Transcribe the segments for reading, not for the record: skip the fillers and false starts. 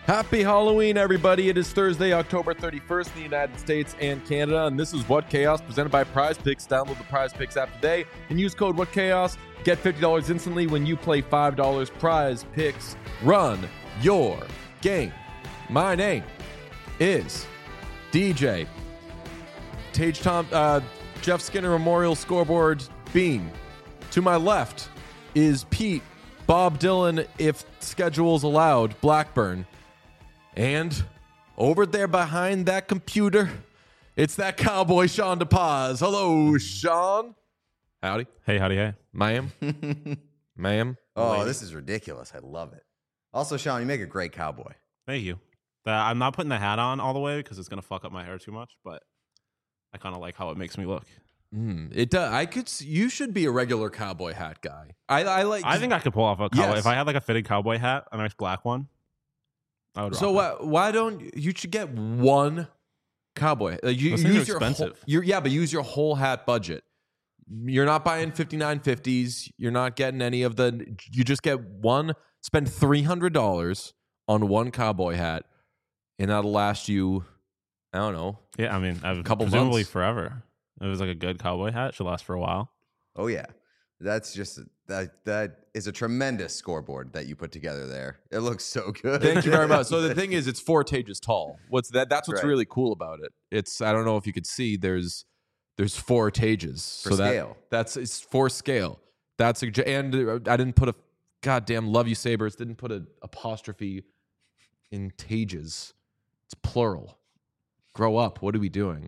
Happy Halloween, everybody. It is Thursday, October 31st in the United States and Canada, and this is What Chaos presented by Prize Picks. Download the Prize Picks app today and use code What Chaos. Get $50 instantly when you play $5. Prize Picks. Run your game. My name is DJ. Tage Tom, Jeff Skinner Memorial Scoreboard Bean. To my left is Pete, Bob Dylan, if schedules allowed, Blackburn. And over there behind that computer, it's that cowboy Sean DePaz. Hello, Sean. Howdy. Hey, howdy, hey. Ma'am. Ma'am. Oh, Lady. this is ridiculous. I love it. Also, Sean, you make a great cowboy. Thank you. I'm not putting the hat on all the way because it's going to fuck up my hair too much, but I kind of like how it makes me look. It does. You should be a regular cowboy hat guy. I think I could pull off a cowboy. Yes. If I had like a fitted cowboy hat, a nice black one, I would rock So why don't you should get one cowboy? You Those things use are your expensive. but use your whole hat budget. You're not buying 5950s. You're not getting any of the. You just get one. Spend $300 on one cowboy hat, and that'll last you. I don't know. Yeah, I mean, I've Couple presumably months. forever. It was like a good cowboy hat. It should last for a while. Oh, yeah. That's just, that is a tremendous scoreboard that you put together there. It looks so good. Thank you very much. So the thing is, it's 4 Tages tall. That's what's Right. really cool about it. It's I don't know if you could see. There's 4 Tages For scale. It's for scale. And I didn't put a goddamn love you Sabres. Didn't put an apostrophe in Tages. It's plural. Grow up. What are we doing?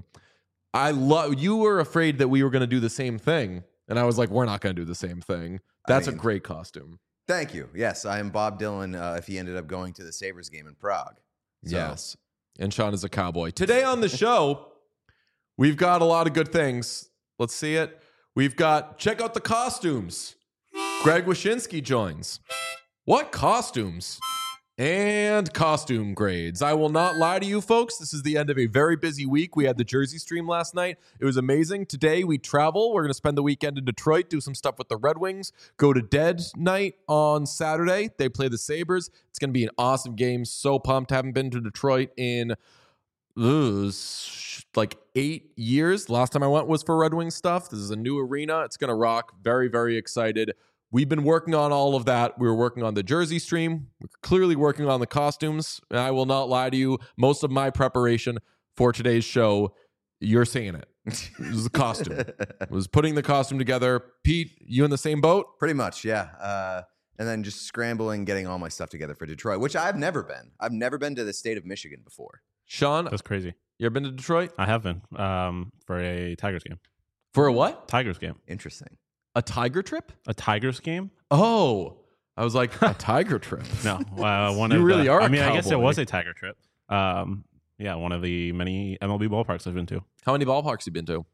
You were afraid that we were going to do the same thing, and I was like, we're not going to do the same thing. That's a great costume. Thank you. Yes, I am Bob Dylan if he ended up going to the Sabres game in Prague. So, Yes. And Sean is a cowboy. Today on the show, we've got a lot of good things. Let's see it. We've got, check out the costumes. Greg Wyshynski joins. What costumes? And costume grades. I will not lie to you folks. This is the end of a very busy week. We had the Jersey stream last night. It was amazing. Today we travel. We're going to spend the weekend in Detroit, do some stuff with the Red Wings, go to Dead Night on Saturday. They play the Sabres. It's going to be an awesome game. So pumped. Haven't been to Detroit in like 8 years. Last time I went was for Red Wings stuff. This is a new arena. It's going to rock. Very, very excited. We've been working on all of that. We were working on the Jersey stream. We're clearly working on the costumes. And I will not lie to you. Most of my preparation for today's show, you're seeing it. It was the costume. It was putting the costume together. Pete, you in the same boat? Pretty much, yeah. And then just scrambling, getting all my stuff together for Detroit, which I've never been. I've never been to the state of Michigan before. Sean, That's crazy. you ever been to Detroit? I have been for a Tigers game. For a what? Tigers game. Interesting. A tiger trip? A Tigers game? Oh, I was like, a tiger trip. No. One You of really the, are a I mean, I guess it cowboy. was a Tiger trip. Yeah, one of the many MLB ballparks I've been to. How many ballparks you been to?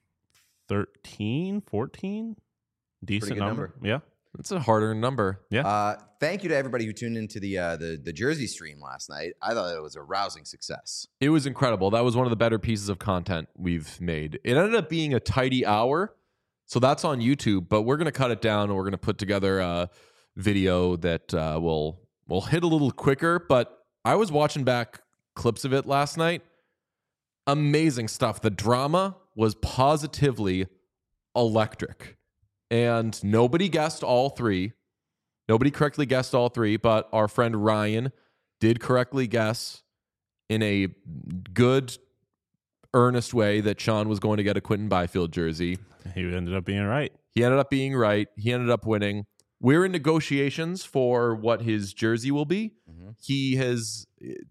13, 14? Decent good number. Yeah. That's a harder number. Thank you to everybody who tuned into the Jersey stream last night. I thought it was a rousing success. It was incredible. That was one of the better pieces of content we've made. It ended up being a tidy hour. So that's on YouTube, but we're going to cut it down and we're going to put together a video that will hit a little quicker. But I was watching back clips of it last night. Amazing stuff. The drama was positively electric. And nobody guessed all three. Nobody correctly guessed all three, but our friend Ryan did correctly guess in a good, earnest way that Sean was going to get a Quentin Byfield jersey. He ended up being right. He ended up being right. He ended up winning. We're in negotiations for what his jersey will be. Mm-hmm. He has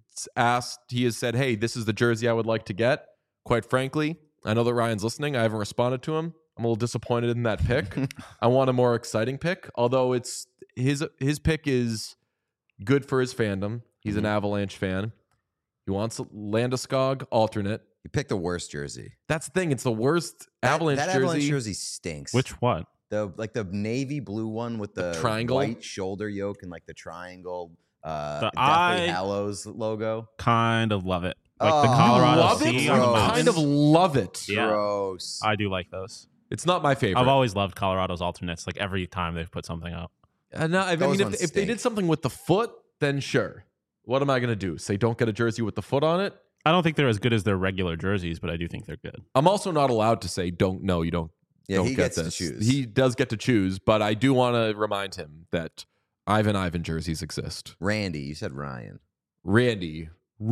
said, hey, this is the jersey I would like to get. Quite frankly, I know that Ryan's listening. I haven't responded to him. I'm a little disappointed in that pick. I want a more exciting pick, although it's his pick is good for his fandom. He's an Avalanche fan. He wants a Landeskog alternate. You picked the worst jersey. That's the thing. It's the worst Avalanche that jersey. Avalanche jersey stinks. Which one? The navy blue one with the triangle? white shoulder yoke and like the triangle The Deathly Hallows logo. Kind of love it. Like Oh, the Colorado love Sea it? on the Gross. Kind mountains. of love it. Yeah. Gross. I do like those. It's not my favorite. I've always loved Colorado's alternates. Like every time they've put something out. No, I Those mean, ones if they did stink. something with the foot, then sure. What am I going to do? Say don't get a jersey with the foot on it? I don't think they're as good as their regular jerseys, but I do think they're good. I'm also not allowed to say don't. No, you don't. Yeah, don't he get gets to this. choose. He does get to choose, but I do want to remind him that Ivan jerseys exist. Randy, you said Ryan. Randy.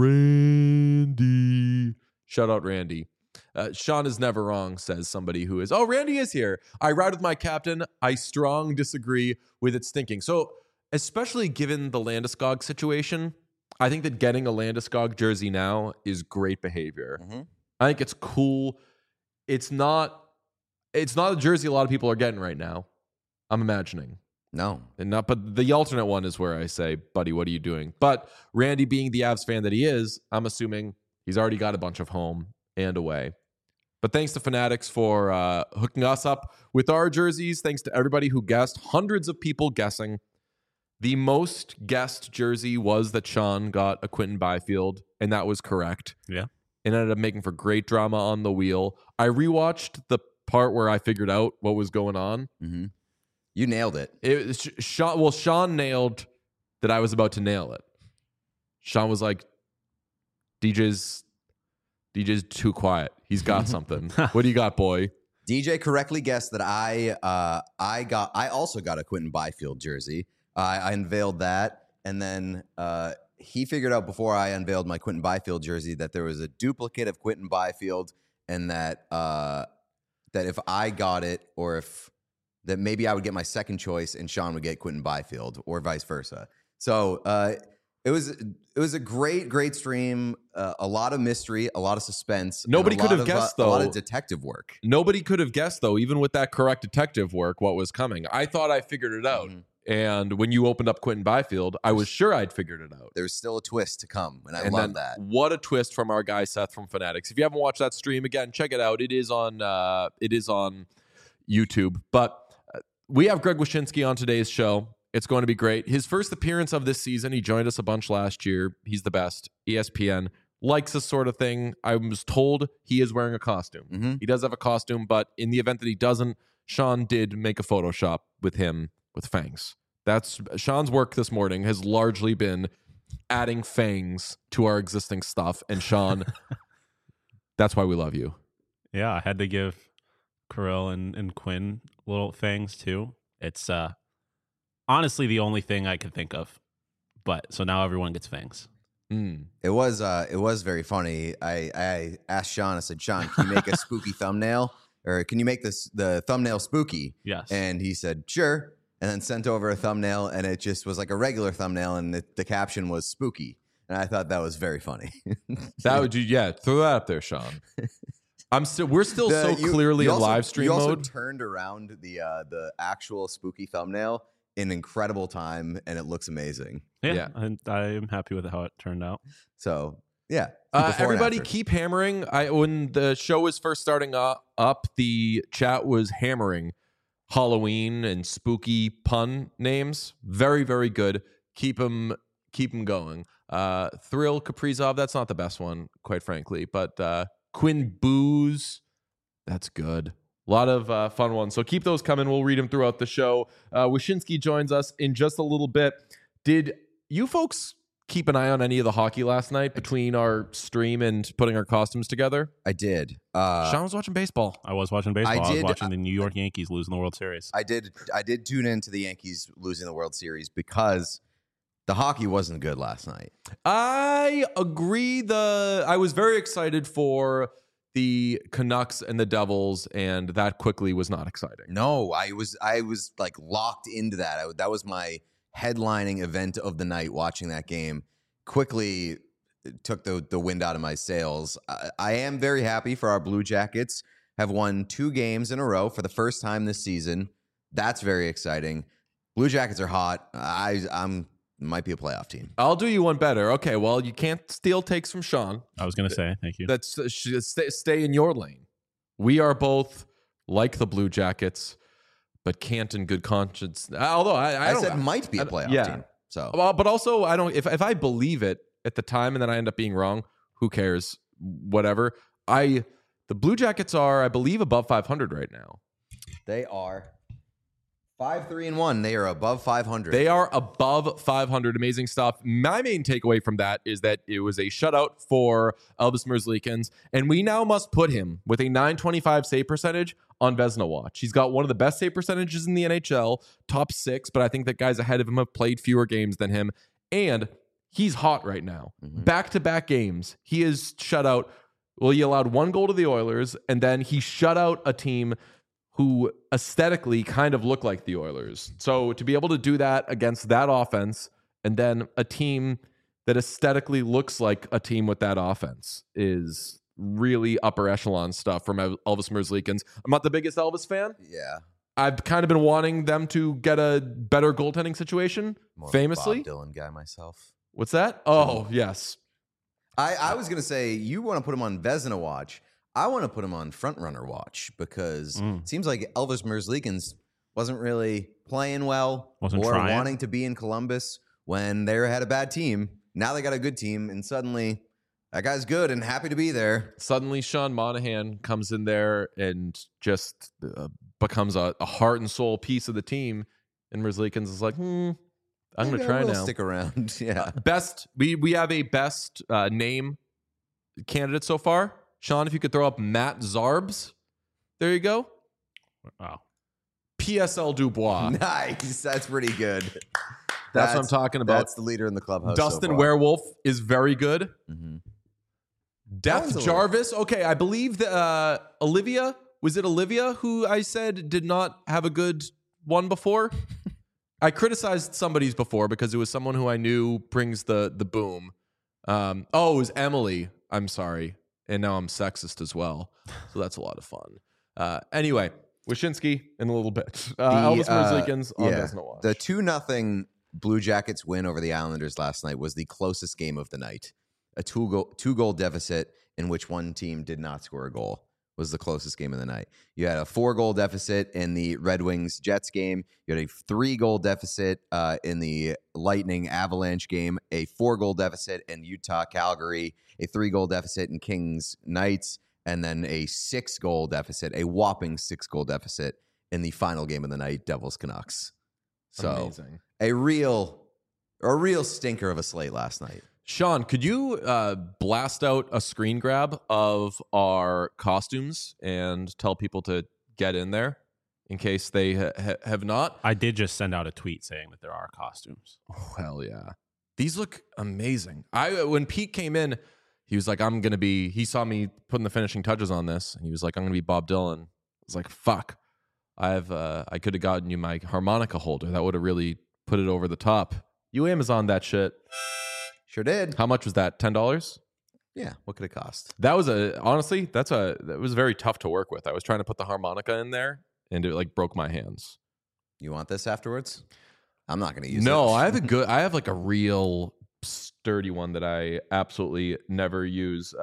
Shout out Randy. Sean is never wrong, says somebody who is. Oh, Randy is here. I ride with my captain. I strong disagree with its thinking. So, especially given the Landeskog situation, I think that getting a Landeskog jersey now is great behavior. Mm-hmm. I think it's cool. It's not a jersey a lot of people are getting right now. I'm imagining. No. But the alternate one is where I say, buddy, what are you doing? But Randy being the Avs fan that he is, I'm assuming he's already got a bunch of home and away. But thanks to Fanatics for hooking us up with our jerseys. Thanks to everybody who guessed. Hundreds of people guessing. The most guessed jersey was that Sean got a Quentin Byfield, and that was correct. Yeah. It ended up making for great drama on the wheel. I rewatched the part where I figured out what was going on. Mm-hmm. You nailed it. Sean nailed that I was about to nail it. Sean was like, DJ's too quiet. He's got something. What do you got, boy? DJ correctly guessed that I also got a Quentin Byfield jersey. I unveiled that, and then he figured out before I unveiled my Quentin Byfield jersey that there was a duplicate of Quentin Byfield, and that if I got it, or that maybe I would get my second choice and Sean would get Quentin Byfield, or vice versa. So it was a great stream. A lot of mystery, a lot of suspense. Nobody could have guessed, though. A lot of detective work. Nobody could have guessed, though, even with that correct detective work, what was coming. I thought I figured it out. Mm-hmm. And when you opened up Quentin Byfield, I was sure I'd figured it out. There's still a twist to come, and I love that. What a twist from our guy Seth from Fanatics. If you haven't watched that stream, again, check it out. It is on YouTube. But we have Greg Wyshynski on today's show. It's going to be great. His first appearance of this season. He joined us a bunch last year. He's the best. ESPN likes this sort of thing. I was told he is wearing a costume. Mm-hmm. He does have a costume, but in the event that he doesn't, Sean did make a Photoshop with him with fangs. That's Sean's work this morning has largely been adding fangs to our existing stuff. And Sean, that's why we love you. Yeah, I had to give Kirill and Quinn little fangs too. It's honestly the only thing I could think of. But so now everyone gets fangs. It was very funny. I asked Sean, I said, Sean, can you make a spooky thumbnail? Or can you make the thumbnail spooky? Yes. And he said, sure. And then sent over a thumbnail, and it just was like a regular thumbnail, and the caption was spooky. And I thought that was very funny. Throw that up there, Sean. We're still so clearly in live stream mode. You also turned around the actual spooky thumbnail in incredible time, and it looks amazing. Yeah. And I am happy with how it turned out. So yeah, everybody keep hammering. When the show was first starting up, the chat was hammering Halloween and spooky pun names. Very, very good. Keep them going. Thrill Kaprizov, that's not the best one, quite frankly, but Quinn Booze, that's good. A lot of fun ones. So keep those coming. We'll read them throughout the show. Wyshynski joins us in just a little bit. Did you folks keep an eye on any of the hockey last night between our stream and putting our costumes together? I did. Sean was watching baseball. I was watching baseball. I was watching the New York Yankees losing the World Series. I did tune into the Yankees losing the World Series because the hockey wasn't good last night. I agree. I was very excited for the Canucks and the Devils, and that quickly was not exciting. No, I was like locked into that. That was my headlining event of the night, watching that game. Quickly took the wind out of my sails. I am very happy for our Blue Jackets. Have won 2 games in a row for the first time this season. That's very exciting. Blue Jackets are hot. I'm might be a playoff team. I'll do you one better. Okay, well, you can't steal takes from Sean. I was going to say, thank you. That's stay in your lane. We are both like the Blue Jackets, but can't in good conscience. Although I said might be a playoff team. So, but also I don't. If I believe it at the time and then I end up being wrong, who cares? Whatever. The Blue Jackets are, I believe, above 500 right now. They are 5-3-1. They are above 500. They are above 500. Amazing stuff. My main takeaway from that is that it was a shutout for Elvis Merzlikins, and we now must put him with a 925 save percentage on Vezina Watch. He's got one of the best save percentages in the NHL, top 6, but I think that guys ahead of him have played fewer games than him, and he's hot right now. Back-to-back games, he is shut out. Well, he allowed 1 goal to the Oilers, and then he shut out a team who aesthetically kind of look like the Oilers. So to be able to do that against that offense and then a team that aesthetically looks like a team with that offense is really upper echelon stuff from Elvis Merzlikins. I'm not the biggest Elvis fan. Yeah. I've kind of been wanting them to get a better goaltending situation, More famously. Bob Dylan guy myself. What's that? Oh, yes. I was going to say, you want to put him on Vezina Watch. I want to put him on Frontrunner Watch because it seems like Elvis Merzlikins wasn't really playing well or wanting to be in Columbus when they had a bad team. Now they got a good team, and suddenly that guy's good and happy to be there. Suddenly Sean Monahan comes in there and just becomes a heart and soul piece of the team, and Merzlikins is like, I'm going to try now. Stick around. Yeah. Best. We have a best name candidate so far. Sean, if you could throw up Matt Zarbs. There you go. Wow. PSL Dubois. Nice. That's pretty good. That's what I'm talking about. That's the leader in the clubhouse. Dustin so far. Werewolf is very good. Mhm. Death Jarvis. Okay, I believe that Olivia. Was it Olivia who I said did not have a good one before? I criticized somebody's before because it was someone who I knew brings the boom. It was Emily. I'm sorry. And now I'm sexist as well. So that's a lot of fun. Anyway, Wyshynski in a little bit. Elvis Merzlikins on Vezina Watch. The 2-0 Blue Jackets win over the Islanders last night was the closest game of the night. A two-goal deficit in which one team did not score a goal was the closest game of the night. You had a 4-goal deficit in the Red Wings-Jets game. You had a 3-goal deficit in the Lightning-Avalanche game, a 4-goal deficit in Utah-Calgary, a 3-goal deficit in Kings-Knights, and then a 6-goal deficit, a whopping 6-goal deficit in the final game of the night, Devils-Canucks. So amazing. A real stinker of a slate last night. Sean, could you blast out a screen grab of our costumes and tell people to get in there in case they have not? I did just send out a tweet saying that there are costumes. Oh, hell yeah. These look amazing. When Pete came in, he was like, he saw me putting the finishing touches on this, and he was like, I'm going to be Bob Dylan. I was like, fuck. I could have gotten you my harmonica holder. That would have really put it over the top. You Amazon that shit. Sure did. How much was that? $10? Yeah. What could it cost? That was honestly, that was very tough to work with. I was trying to put the harmonica in there and it like broke my hands. You want this afterwards? I'm not going to use it. No, I have like a real sturdy one that I absolutely never use.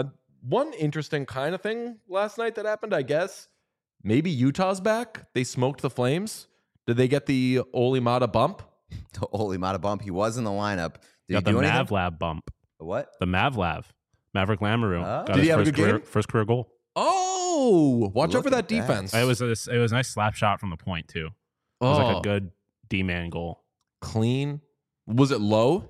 One interesting kind of thing last night that happened, I guess, maybe Utah's back. They smoked the Flames. Did they get the Olimata bump? The Olimata bump. He was in the lineup. Got the Mavlab bump. What? The Mavlav. Maverick Lamoureux. Oh. Got Did he his have a good game? first career goal. Oh, watch out for that defense. It was a nice slap shot from the point, too. It was like a good D-man goal. Clean. Was it low?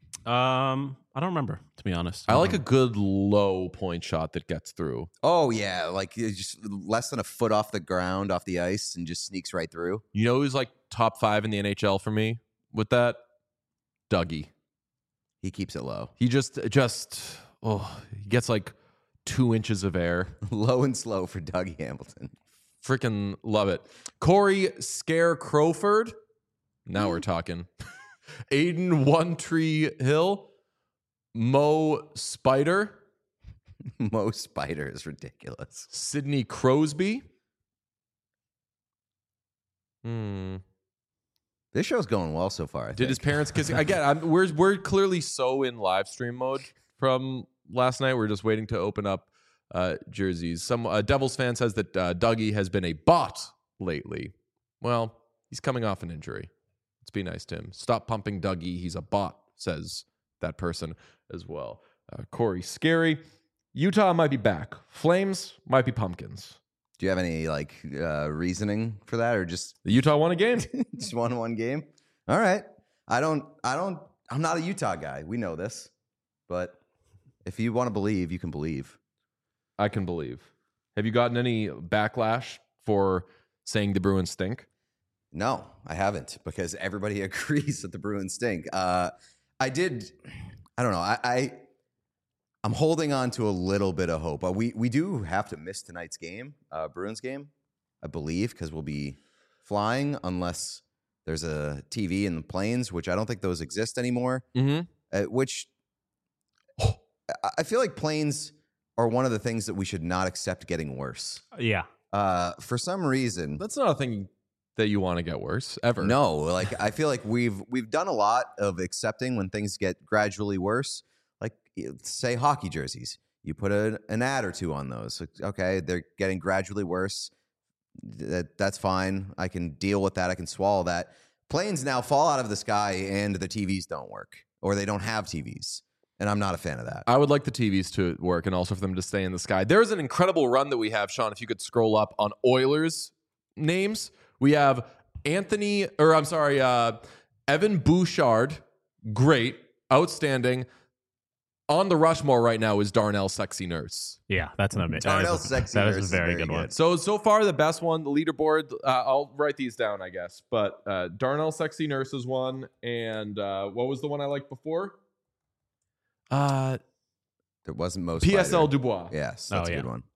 I don't remember, to be honest. I like a good low point shot that gets through. Oh, yeah. Like it's just less than a foot off the ground, off the ice, and just sneaks right through. You know who's like top 5 in the NHL for me with that? Dougie. He keeps it low. He he gets like 2 inches of air. Low and slow for Dougie Hamilton. Freaking love it. Corey Scare Crowford. Now we're talking. Aiden One Tree Hill. Mo Spider. Mo Spider is ridiculous. Sidney Crosby. This show's going well so far. I Did think. his parents kiss? Again, we're clearly so in live stream mode from last night. We're just waiting to open up jerseys. Some Devils fan says that Dougie has been a bot lately. Well, he's coming off an injury. Let's be nice to him. Stop pumping Dougie. He's a bot, says that person as well. Corey Scary. Utah might be back. Flames might be pumpkins. Do you have any like reasoning for that, or just The Utah won a game. just won one game? All right. I'm not a Utah guy. We know this, but if you want to believe, you can believe. I can believe. Have you gotten any backlash for saying the Bruins stink? No, I haven't, because everybody agrees that the Bruins stink. I don't know. I'm holding on to a little bit of hope. We do have to miss tonight's game, Bruins game, I believe, because we'll be flying unless there's a TV in the planes, which I don't think those exist anymore. Mm-hmm. Which I feel like planes are one of the things that we should not accept getting worse. Yeah. For some reason, That's not a thing that you want to get worse ever. no. Like I feel like we've done a lot of accepting when things get gradually worse. Like say hockey jerseys, you put an ad or two on those. Okay, they're getting gradually worse. That's fine. I can deal with that. I can swallow that. Planes now fall out of the sky and the TVs don't work, or they don't have TVs. And I'm not a fan of that. I would like the TVs to work and also for them to stay in the sky. There's an incredible run that we have, Sean, if you could scroll up on Oilers names. We have Evan Bouchard, great, outstanding. On the Rushmore right now is Darnell Sexy Nurse. Yeah, that's an amazing. Darnell Sexy Nurse That is a very good one. So far the best one, the leaderboard. I'll write these down, I guess. But Darnell Sexy Nurse is one, and what was the one I liked before? There wasn't most PSL Fighter. Dubois. Yes, that's a good one.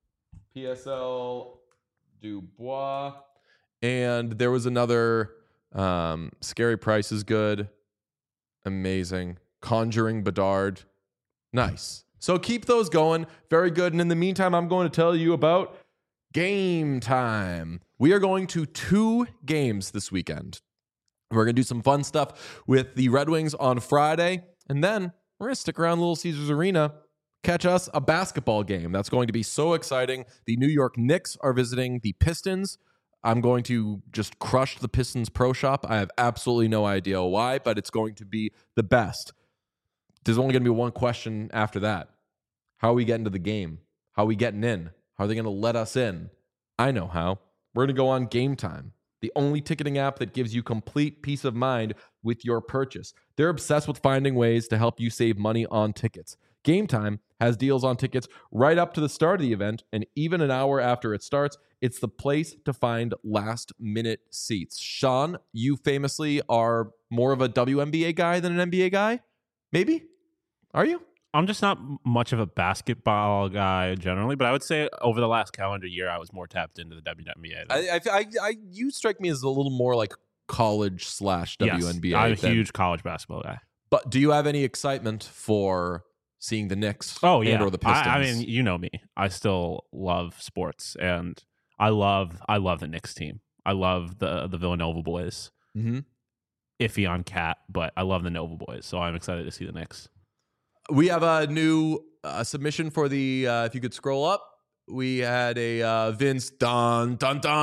PSL Dubois, and there was another. Scary Price is good, amazing. Conjuring Bedard. Nice. So keep those going. Very good. And in the meantime, I'm going to tell you about Game Time. We are going to 2 games this weekend. We're going to do some fun stuff with the Red Wings on Friday. And then we're going to stick around Little Caesars Arena, catch us a basketball game. That's going to be so exciting. The New York Knicks are visiting the Pistons. I'm going to just crush the Pistons Pro Shop. I have absolutely no idea why, but it's going to be the best. There's only going to be one question after that. How are we getting to the game? How are we getting in? How are they going to let us in? I know how. We're going to go on Game Time, the only ticketing app that gives you complete peace of mind with your purchase. They're obsessed with finding ways to help you save money on tickets. Game Time has deals on tickets right up to the start of the event, and even an hour after it starts. It's the place to find last-minute seats. Sean, you famously are more of a WNBA guy than an NBA guy? Maybe? Are you? I'm just not much of a basketball guy generally, but I would say over the last calendar year, I was more tapped into the WNBA. You strike me as a little more like college / WNBA. Yes, I'm a huge college basketball guy. But do you have any excitement for seeing the Knicks? Oh yeah, or the Pistons? I mean, you know me. I still love sports, and I love the Knicks team. I love the Villanova boys. Mm-hmm. Iffy on Cat, but I love the Nova boys, so I'm excited to see the Knicks. We have a new submission for the, if you could scroll up, we had a Vince dun.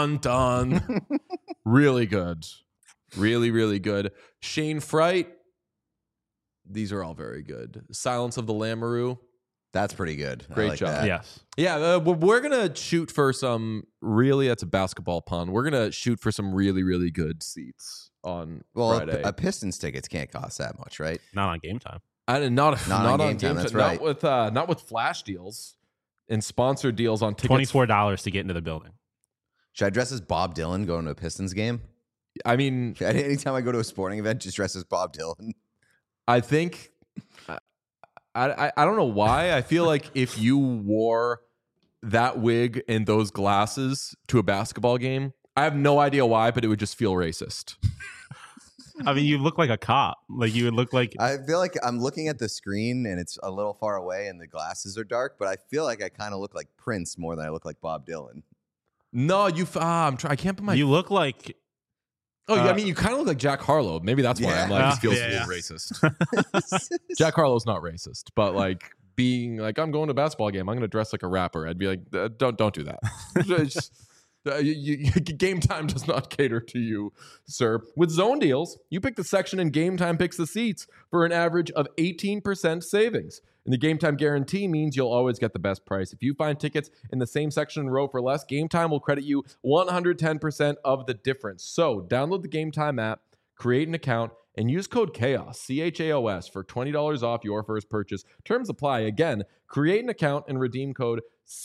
Really good. Really, really good. Shane Fright. These are all very good. Silence of the Lamoureux. That's pretty good. Great I like job. that. Yes. Yeah, we're going to shoot for some that's a basketball pun. We're going to shoot for some really, really good seats on Friday. A Pistons tickets can't cost that much, right? Not on Game Time. Not on Game Time. That's right. Not with flash deals and sponsored deals on tickets. $24 to get into the building. Should I dress as Bob Dylan going to a Pistons game? I mean, anytime I go to a sporting event, just dress as Bob Dylan. I think I don't know why. I feel like if you wore that wig and those glasses to a basketball game, I have no idea why, but it would just feel racist. I mean, you look like a cop. Like you would look like. I feel like I'm looking at the screen and it's a little far away and the glasses are dark, but I feel like I kind of look like Prince more than I look like Bob Dylan. No, I can't put my. You look like. Oh, I mean, you kind of look like Jack Harlow. Maybe that's why I'm like, this feels a little racist. Jack Harlow's not racist, but like being like, I'm going to a basketball game, I'm going to dress like a rapper. I'd be like, don't do that. Game Time does not cater to you, sir. With Zone Deals, you pick the section and Game Time picks the seats for an average of 18% savings. And the Game Time guarantee means you'll always get the best price. If you find tickets in the same section and row for less, Game Time will credit you 110% of the difference. So download the Game Time app, create an account, and use code CHAOS, CHAOS, for $20 off your first purchase. Terms apply. Again, create an account and redeem code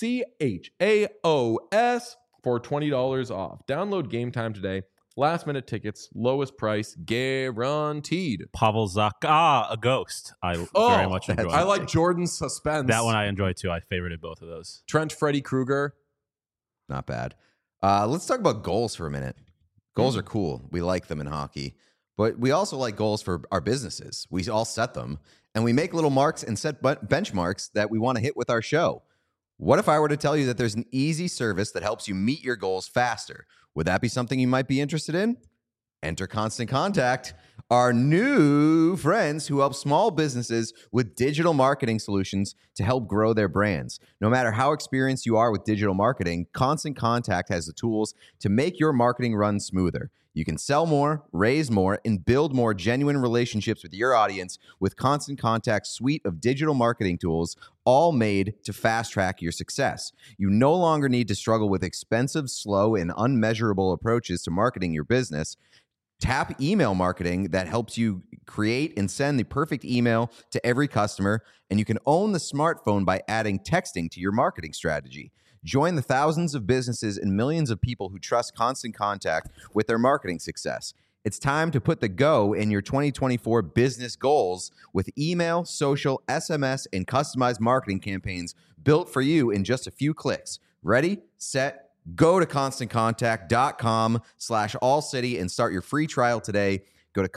CHAOS for $20 off. Download Game Time today. Last minute tickets, lowest price guaranteed. Pavel Zacha, a ghost. I very much enjoyed. I like Jordan's suspense. That one I enjoyed too. I favorited both of those. Trent Freddy Krueger. Not bad. Let's talk about goals for a minute. Goals are cool. We like them in hockey. But we also like goals for our businesses. We all set them. And we make little marks and set benchmarks that we want to hit with our show. What if I were to tell you that there's an easy service that helps you meet your goals faster? Would that be something you might be interested in? Enter Constant Contact, our new friends who help small businesses with digital marketing solutions to help grow their brands. No matter how experienced you are with digital marketing, Constant Contact has the tools to make your marketing run smoother. You can sell more, raise more, and build more genuine relationships with your audience with Constant Contact's suite of digital marketing tools, all made to fast-track your success. You no longer need to struggle with expensive, slow, and unmeasurable approaches to marketing your business. Tap email marketing that helps you create and send the perfect email to every customer, and you can own the smartphone by adding texting to your marketing strategy. Join the thousands of businesses and millions of people who trust Constant Contact with their marketing success. It's time to put the go in your 2024 business goals with email, social, SMS, and customized marketing campaigns built for you in just a few clicks. Ready, set, go to ConstantContact.com/allcity and start your free trial today. Go to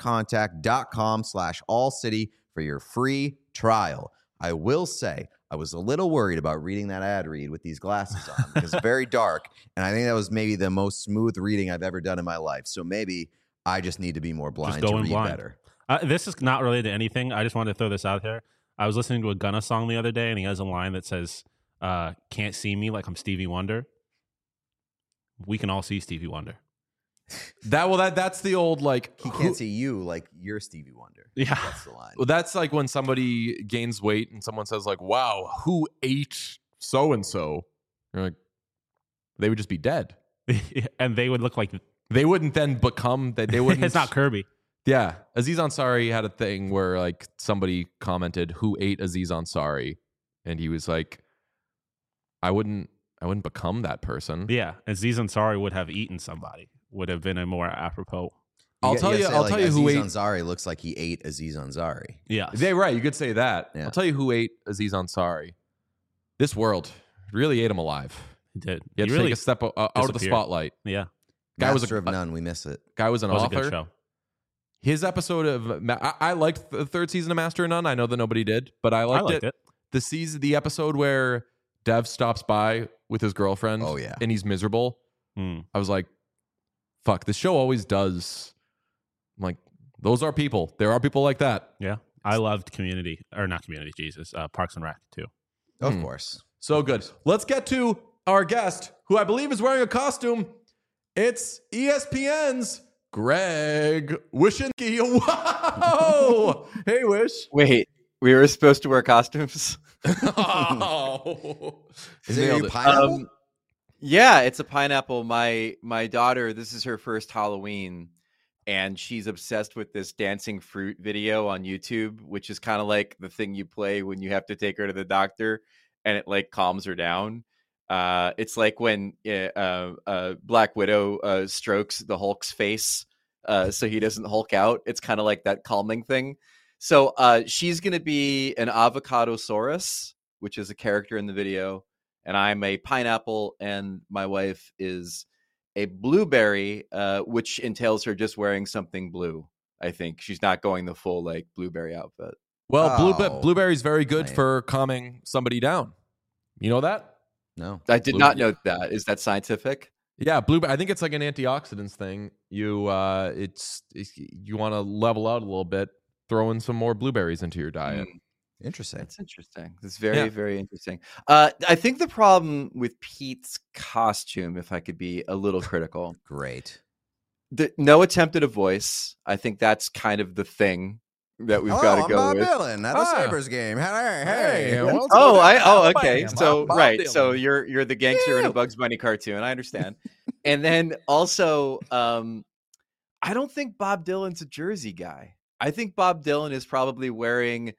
ConstantContact.com/allcity for your free trial. I will say, I was a little worried about reading that ad read with these glasses on because it's very dark, and I think that was maybe the most smooth reading I've ever done in my life. So maybe I just need to be more blind to read better. This is not related to anything. I just wanted to throw this out there. I was listening to a Gunna song the other day, and he has a line that says, "Can't see me like I'm Stevie Wonder." We can all see Stevie Wonder. That's the old like he can't see you like you're Stevie Wonder. Yeah, that's the line. Well, that's like when somebody gains weight and someone says like, "Wow, who ate so and so?" You're like, they would just be dead, and they would look like they wouldn't then become that. They wouldn't. It's not Kirby. Yeah, Aziz Ansari had a thing where like somebody commented, "Who ate Aziz Ansari?" and he was like, "I wouldn't become that person." Yeah, Aziz Ansari would have eaten somebody. Would have been a more apropos. I'll tell you who ate. Aziz Ansari looks like he ate Aziz Ansari. Yeah, right. You could say that. Yeah. I'll tell you who ate Aziz Ansari. This world really ate him alive. He did. He had to take a step out of the spotlight. Yeah, Guy was of none. We miss it. Guy was an author. Was a good show. His episode of I liked the third season of Master of None. I know that nobody did, but I liked it. The episode where Dev stops by with his girlfriend. Oh yeah, and he's miserable. I was like, fuck, this show always does. I'm like, those are people. There are people like that. Yeah. I loved Community, or not Community, Jesus, Parks and Rec too. Of course. So good. Let's get to our guest, who I believe is wearing a costume. It's ESPN's Greg Wyshynski. Whoa! Hey, Wish. Wait, we were supposed to wear costumes? Oh. Is it a pineapple? Yeah, it's a pineapple. My daughter, this is her first Halloween, and she's obsessed with this dancing fruit video on YouTube, which is kind of like the thing you play when you have to take her to the doctor, and it like calms her down. It's like when Black Widow strokes the Hulk's face so he doesn't Hulk out. It's kind of like that calming thing. So she's going to be an Avocadosaurus, which is a character in the video. And I'm a pineapple, and my wife is a blueberry, which entails her just wearing something blue. I think she's not going the full like blueberry outfit. Well, blueberry's very good for calming somebody down. You know that? No, I did not know that. Is that scientific? Yeah, blueberry. I think it's like an antioxidants thing. You want to level out a little bit, throw in some more blueberries into your diet. Interesting. That's interesting. That's very, very interesting. I think the problem with Pete's costume, if I could be a little critical, Great. no attempt at a voice. I think that's kind of the thing that we've got to I'm go Bob with. Dylan at a Sabres game. Hey. Okay. So Bob right. Dylan. So you're the gangster in a Bugs Bunny cartoon. I understand. And then also, I don't think Bob Dylan's a jersey guy. I think Bob Dylan is probably wearing,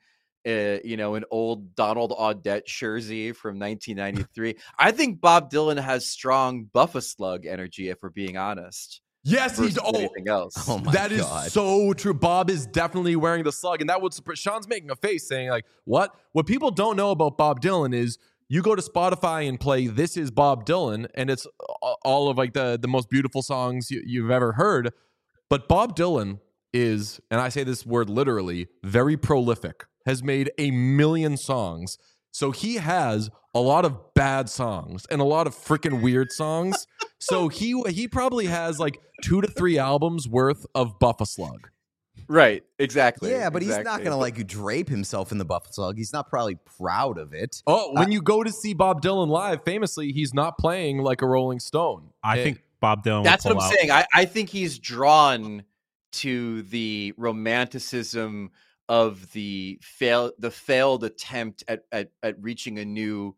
an old Donald Audette jersey from 1993. I think Bob Dylan has strong Buff-a-Slug energy, if we're being honest. Yes, he's anything else. Oh my That is God. so true. Bob is definitely wearing the slug, and that would surprise. Sean's making a face saying, like, what? What people don't know about Bob Dylan is you go to Spotify and play "This Is Bob Dylan," and it's all of like the most beautiful songs you've ever heard. But Bob Dylan is, and I say this word literally, very prolific. Has made 1 million songs. So he has a lot of bad songs and a lot of freaking weird songs. So he probably has like 2 to 3 albums worth of Buff-a-Slug. Right, exactly. Yeah, but he's not exactly. going to like drape himself in the Buff-a-Slug. He's not probably proud of it. Oh, when you go to see Bob Dylan live, famously, he's not playing like a Rolling Stone. I think Bob Dylan. That's would what I'm pull out. saying. I think he's drawn to the romanticism of the failed attempt at reaching a new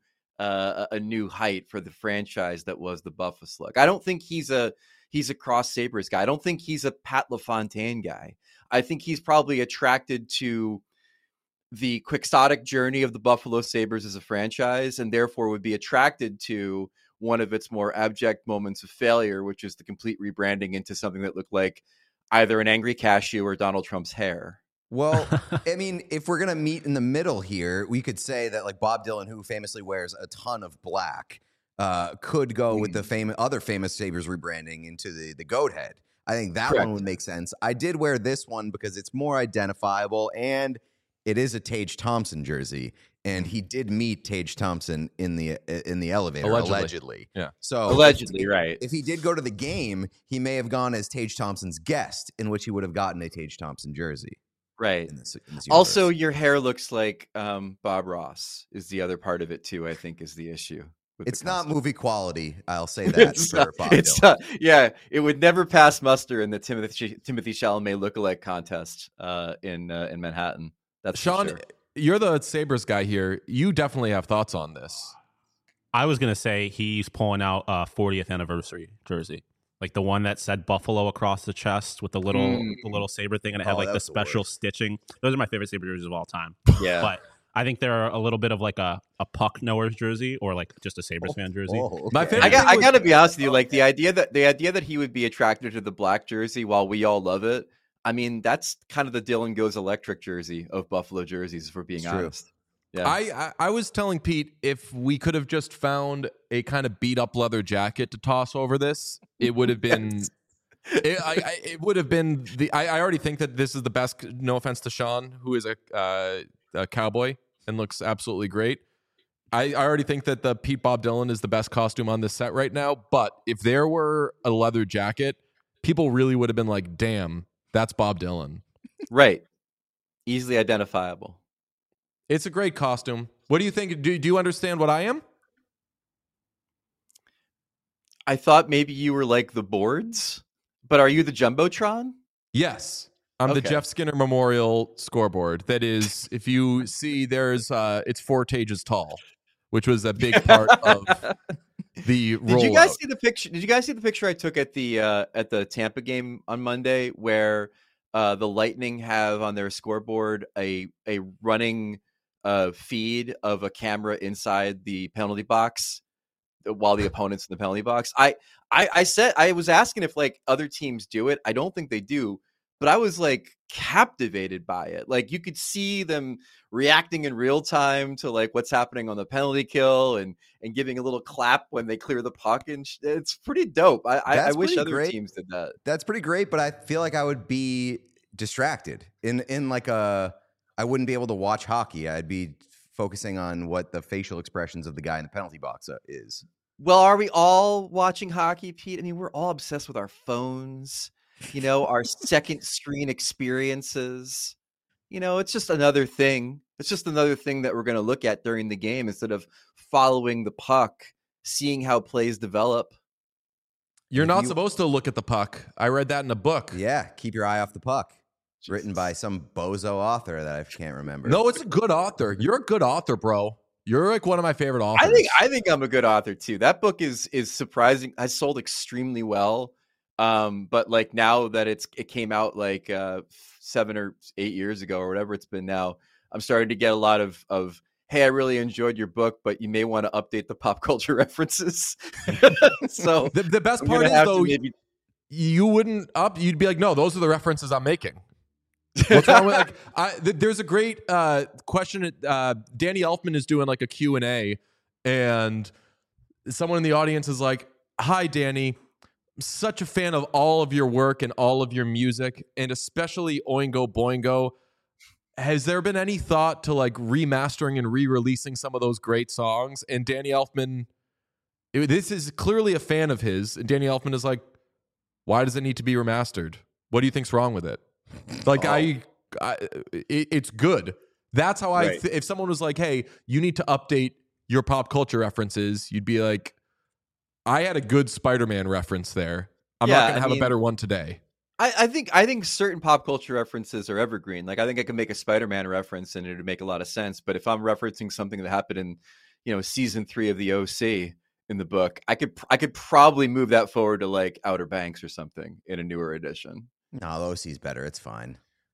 height for the franchise that was the Buff-a-Slug. I don't think he's a Cross Sabres guy. I don't think he's a Pat LaFontaine guy. I think he's probably attracted to the quixotic journey of the Buffalo Sabres as a franchise, and therefore would be attracted to one of its more abject moments of failure, which is the complete rebranding into something that looked like either an angry cashew or Donald Trump's hair. Well, I mean, if we're going to meet in the middle here, we could say that like Bob Dylan, who famously wears a ton of black, could go with the other famous Sabres rebranding into the goat head. I think that Correct. one would make sense. I did wear this one because it's more identifiable and it is a Tage Thompson jersey. And he did meet Tage Thompson in the elevator, allegedly. Yeah. So Allegedly, right. If he did go to the game, he may have gone as Tage Thompson's guest, in which he would have gotten a Tage Thompson jersey. Right. In this Also, universe. your hair looks like Bob Ross is the other part of it too, I think, is the issue. It's not movie quality. I'll say that for Bob Dylan. Yeah, it would never pass muster in the Timothy Chalamet lookalike contest in Manhattan. That's Sean, for sure. you're the Sabres guy here. You definitely have thoughts on this. I was gonna say he's pulling out a 40th anniversary jersey, like the one that said Buffalo across the chest with the little saber thing, and it had like the that's the special worst. stitching. Those are my favorite Sabre jerseys of all time. Yeah. But I think they're a little bit of like a puck knower's jersey or like just a Sabres fan jersey. My okay. favorite I got to be honest with you. Like the idea that he would be attracted to the black jersey while we all love it. I mean, that's kind of the Dylan Goes Electric jersey of Buffalo jerseys, if we're being It's true. honest. Yeah. I was telling Pete if we could have just found a kind of beat up leather jacket to toss over this, it would have been. It would have been the. I already think that this is the best. No offense to Sean, who is a cowboy and looks absolutely great. I already think that the Pete Bob Dylan is the best costume on this set right now. But if there were a leather jacket, people really would have been like, "Damn, that's Bob Dylan." Right. Easily identifiable. It's a great costume. What do you think? Do you understand what I am? I thought maybe you were like the boards, but are you the Jumbotron? Yes. I'm the Okay. Jeff Skinner Memorial scoreboard. That is, if you see, there's it's 4 pages tall, which was a big part of the rollout. Did you guys see the picture? Did you guys see the picture I took at the Tampa game on Monday, where the Lightning have on their scoreboard a running feed of a camera inside the penalty box while the opponent's in the penalty box? I said, I was asking if like other teams do it. I don't think they do, but I was like captivated by it. Like you could see them reacting in real time to like what's happening on the penalty kill and giving a little clap when they clear the puck. And it's pretty dope. I wish pretty other great. teams did that. That's pretty great, but I feel like I would be distracted in like I wouldn't be able to watch hockey. I'd be focusing on what the facial expressions of the guy in the penalty box is. Well, are we all watching hockey, Pete? I mean, we're all obsessed with our phones, our second screen experiences. It's just another thing It's just another thing that we're going to look at during the game instead of following the puck, seeing how plays develop. You're not supposed to look at the puck. I read that in a book. Yeah, keep your eye off the puck. It's written by some bozo author that I can't remember. No, it's a good author. You're a good author, bro. You're like one of my favorite authors. I think I'm a good author too. That book is surprising. Has sold extremely well. But like now that it came out like 7 or 8 years ago or whatever it's been now, I'm starting to get a lot of hey, I really enjoyed your book, but you may want to update the pop culture references. So the best part is though, you wouldn't you'd be like, no, those are the references I'm making. What's wrong with there's a great question. Danny Elfman is doing like a Q&A, and someone in the audience is like, hi, Danny. I'm such a fan of all of your work and all of your music, and especially Oingo Boingo. Has there been any thought to like remastering and re-releasing some of those great songs? And Danny Elfman, this is clearly a fan of his, and Danny Elfman is like, why does it need to be remastered? What do you think's wrong with it? Like it's good. That's how if someone was like, hey, you need to update your pop culture references, you'd be like, I had a good Spider-Man reference there. I'm not going to have a better one today. I think certain pop culture references are evergreen. Like I think I can make a Spider-Man reference and it would make a lot of sense. But if I'm referencing something that happened in, season 3 of the OC in the book, I could probably move that forward to like Outer Banks or something in a newer edition. No, the OC's better. It's fine.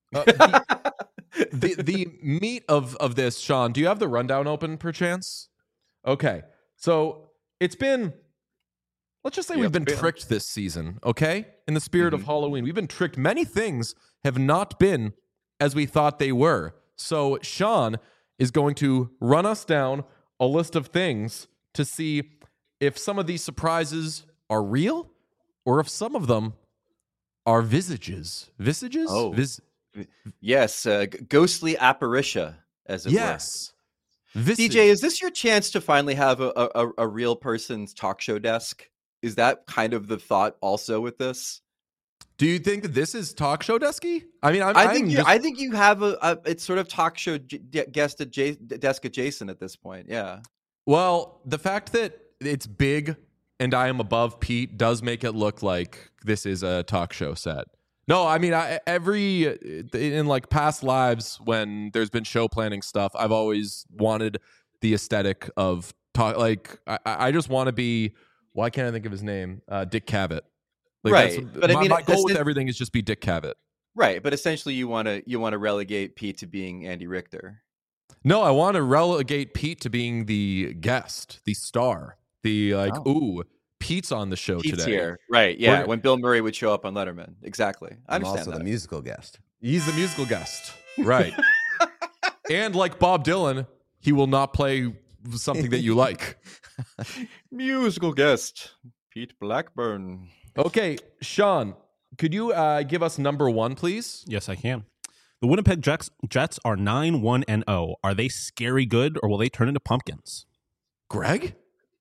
The meat of this, Sean, do you have the rundown open perchance? Okay. So it's been, let's just say we've been tricked this season, okay? In the spirit of Halloween. We've been tricked. Many things have not been as we thought they were. So Sean is going to run us down a list of things to see if some of these surprises are real or if some of them are visages. Visages? Oh. Yes, ghostly apparitia, as it were. Yes. DJ, is this your chance to finally have a real person's talk show desk? Is that kind of the thought also with this? Do you think that this is talk show desky? I mean, I think you have it's sort of talk show desk adjacent at this point. Yeah. Well, the fact that it's big and I am above Pete does make it look like this is a talk show set. No, I mean, in like past lives when there's been show planning stuff, I've always wanted the aesthetic of talk. Like, I just want to be. Why can't I think of his name? Dick Cavett. Like, right, but my goal with everything is just be Dick Cavett. Right, but essentially, you want to relegate Pete to being Andy Richter. No, I want to relegate Pete to being the guest, the star, the ooh. Pete's on the show Pete's today. Here. Right, yeah. When Bill Murray would show up on Letterman. Exactly. I understand also that. the musical guest. He's the musical guest. Right. And like Bob Dylan, he will not play something that you like. Musical guest, Pete Blackburn. Okay, Sean, could you give us number 1, please? Yes, I can. The Winnipeg Jets are 9-1-0. Are they scary good, or will they turn into pumpkins? Greg?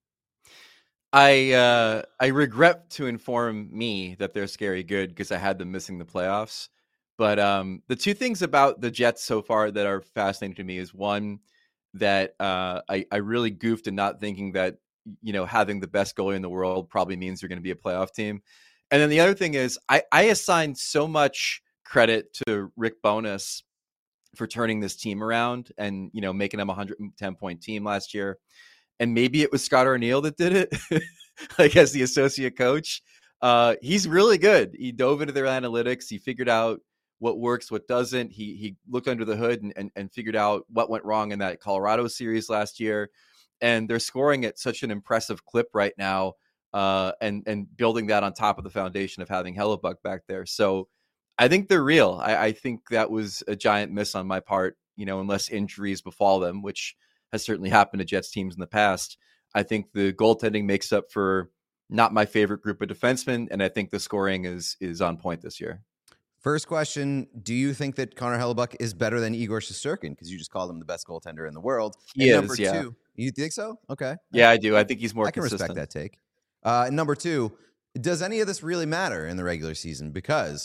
I regret to inform me that they're scary good because I had them missing the playoffs. But the two things about the Jets so far that are fascinating to me is one, that I really goofed in not thinking that, having the best goalie in the world probably means you're going to be a playoff team. And then the other thing is I assigned so much credit to Rick Bowness for turning this team around and, making them a 110-point team last year. And maybe it was Scott Arniel that did it, like as the associate coach. He's really good. He dove into their analytics. He figured out what works, what doesn't. He looked under the hood and figured out what went wrong in that Colorado series last year. And they're scoring at such an impressive clip right now, and building that on top of the foundation of having Hellebuck back there. So I think they're real. I think that was a giant miss on my part, unless injuries befall them, which has certainly happened to Jets teams in the past. I think the goaltending makes up for not my favorite group of defensemen, and I think the scoring is on point this year. First question, do you think that Connor Hellebuck is better than Igor Shesterkin? Because you just called him the best goaltender in the world. He is, number yeah. 2, you think so? Okay. Yeah, I do. I think he's more consistent. I can respect that take. Number 2, does any of this really matter in the regular season? Because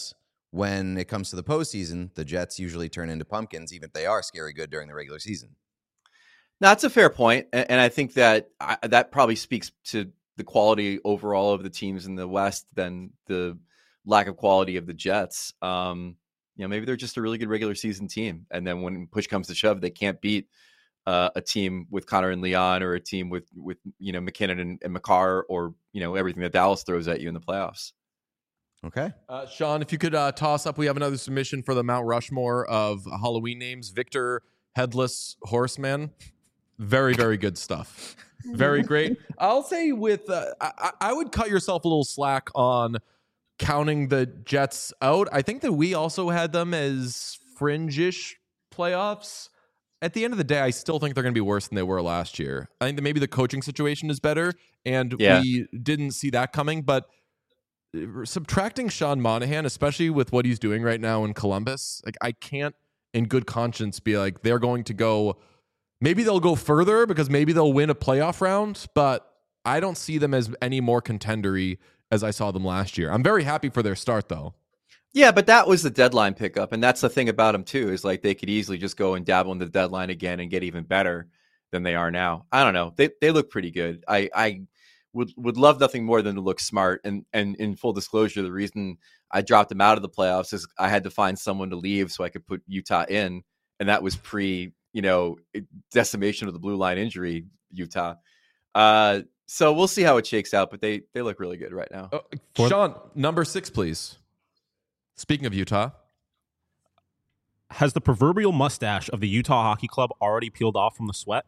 when it comes to the postseason, the Jets usually turn into pumpkins, even if they are scary good during the regular season. That's a fair point, and I think that that probably speaks to the quality overall of the teams in the West than the lack of quality of the Jets. Maybe they're just a really good regular season team, and then when push comes to shove, they can't beat a team with Connor and Leon, or a team with McKinnon and McCarr, or everything that Dallas throws at you in the playoffs. Okay. Sean, if you could toss up, we have another submission for the Mount Rushmore of Halloween names. Victor Headless Horseman. Very, very good stuff. Very great. I'll say I would cut yourself a little slack on counting the Jets out. I think that we also had them as fringe-ish playoffs. At the end of the day, I still think they're going to be worse than they were last year. I think that maybe the coaching situation is better, and we didn't see that coming. But subtracting Sean Monahan, especially with what he's doing right now in Columbus, like I can't in good conscience be like they're going to go. Maybe they'll go further because maybe they'll win a playoff round, but I don't see them as any more contendery as I saw them last year. I'm very happy for their start, though. Yeah, but that was the deadline pickup, and that's the thing about them too, is like they could easily just go and dabble in the deadline again and get even better than they are now. I don't know. They look pretty good. I would love nothing more than to look smart. And in full disclosure, the reason I dropped them out of the playoffs is I had to find someone to leave so I could put Utah in, and that was pre decimation of the blue line injury, Utah. So we'll see how it shakes out, but they look really good right now. Sean, number 6, please. Speaking of Utah. Has the proverbial mustache of the Utah Hockey Club already peeled off from the sweat?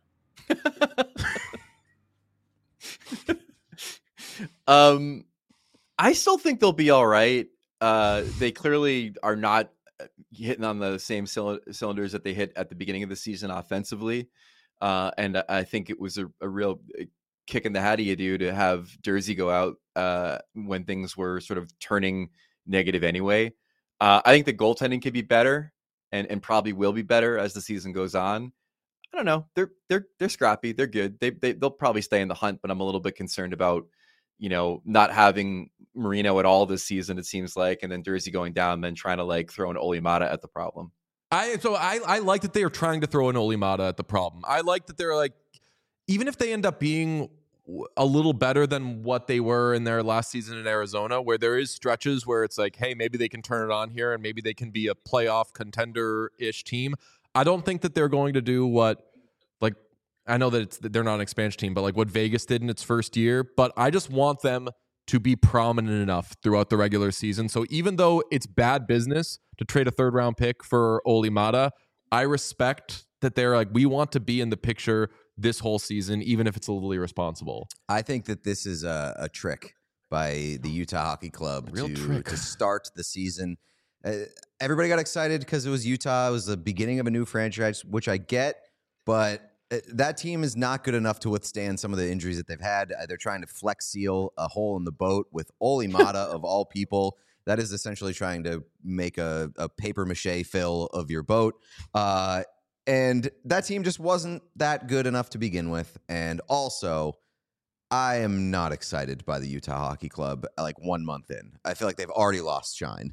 I still think they'll be all right. They clearly are not hitting on the same cylinders that they hit at the beginning of the season offensively. And I think it was a real kick in the hat of you do to have Jersey go out when things were sort of turning negative anyway. I think the goaltending could be better and probably will be better as the season goes on. I don't know. They're scrappy. They're good. They'll probably stay in the hunt, but I'm a little bit concerned about not having Marino at all this season, it seems like, and then Jersey going down, and then trying to like throw an Olli Maatta at the problem. I like that they are trying to throw an Olli Maatta at the problem. I like that they're like, even if they end up being a little better than what they were in their last season in Arizona, where there is stretches where it's like, hey, maybe they can turn it on here and maybe they can be a playoff contender-ish team. I don't think that they're going to do what, like, I know that they're not an expansion team, but like what Vegas did in its first year. But I just want them to be prominent enough throughout the regular season. So even though it's bad business to trade a 3rd-round pick for Olli Maatta, I respect that they're like, we want to be in the picture this whole season, even if it's a little irresponsible. I think that this is a trick by the Utah Hockey Club to start the season. Everybody got excited because it was Utah. It was the beginning of a new franchise, which I get, but that team is not good enough to withstand some of the injuries that they've had. They're trying to flex seal a hole in the boat with Olli Maatta of all people. That is essentially trying to make a paper mache fill of your boat. And that team just wasn't that good enough to begin with. And also, I am not excited by the Utah Hockey Club like 1 month in. I feel like they've already lost shine.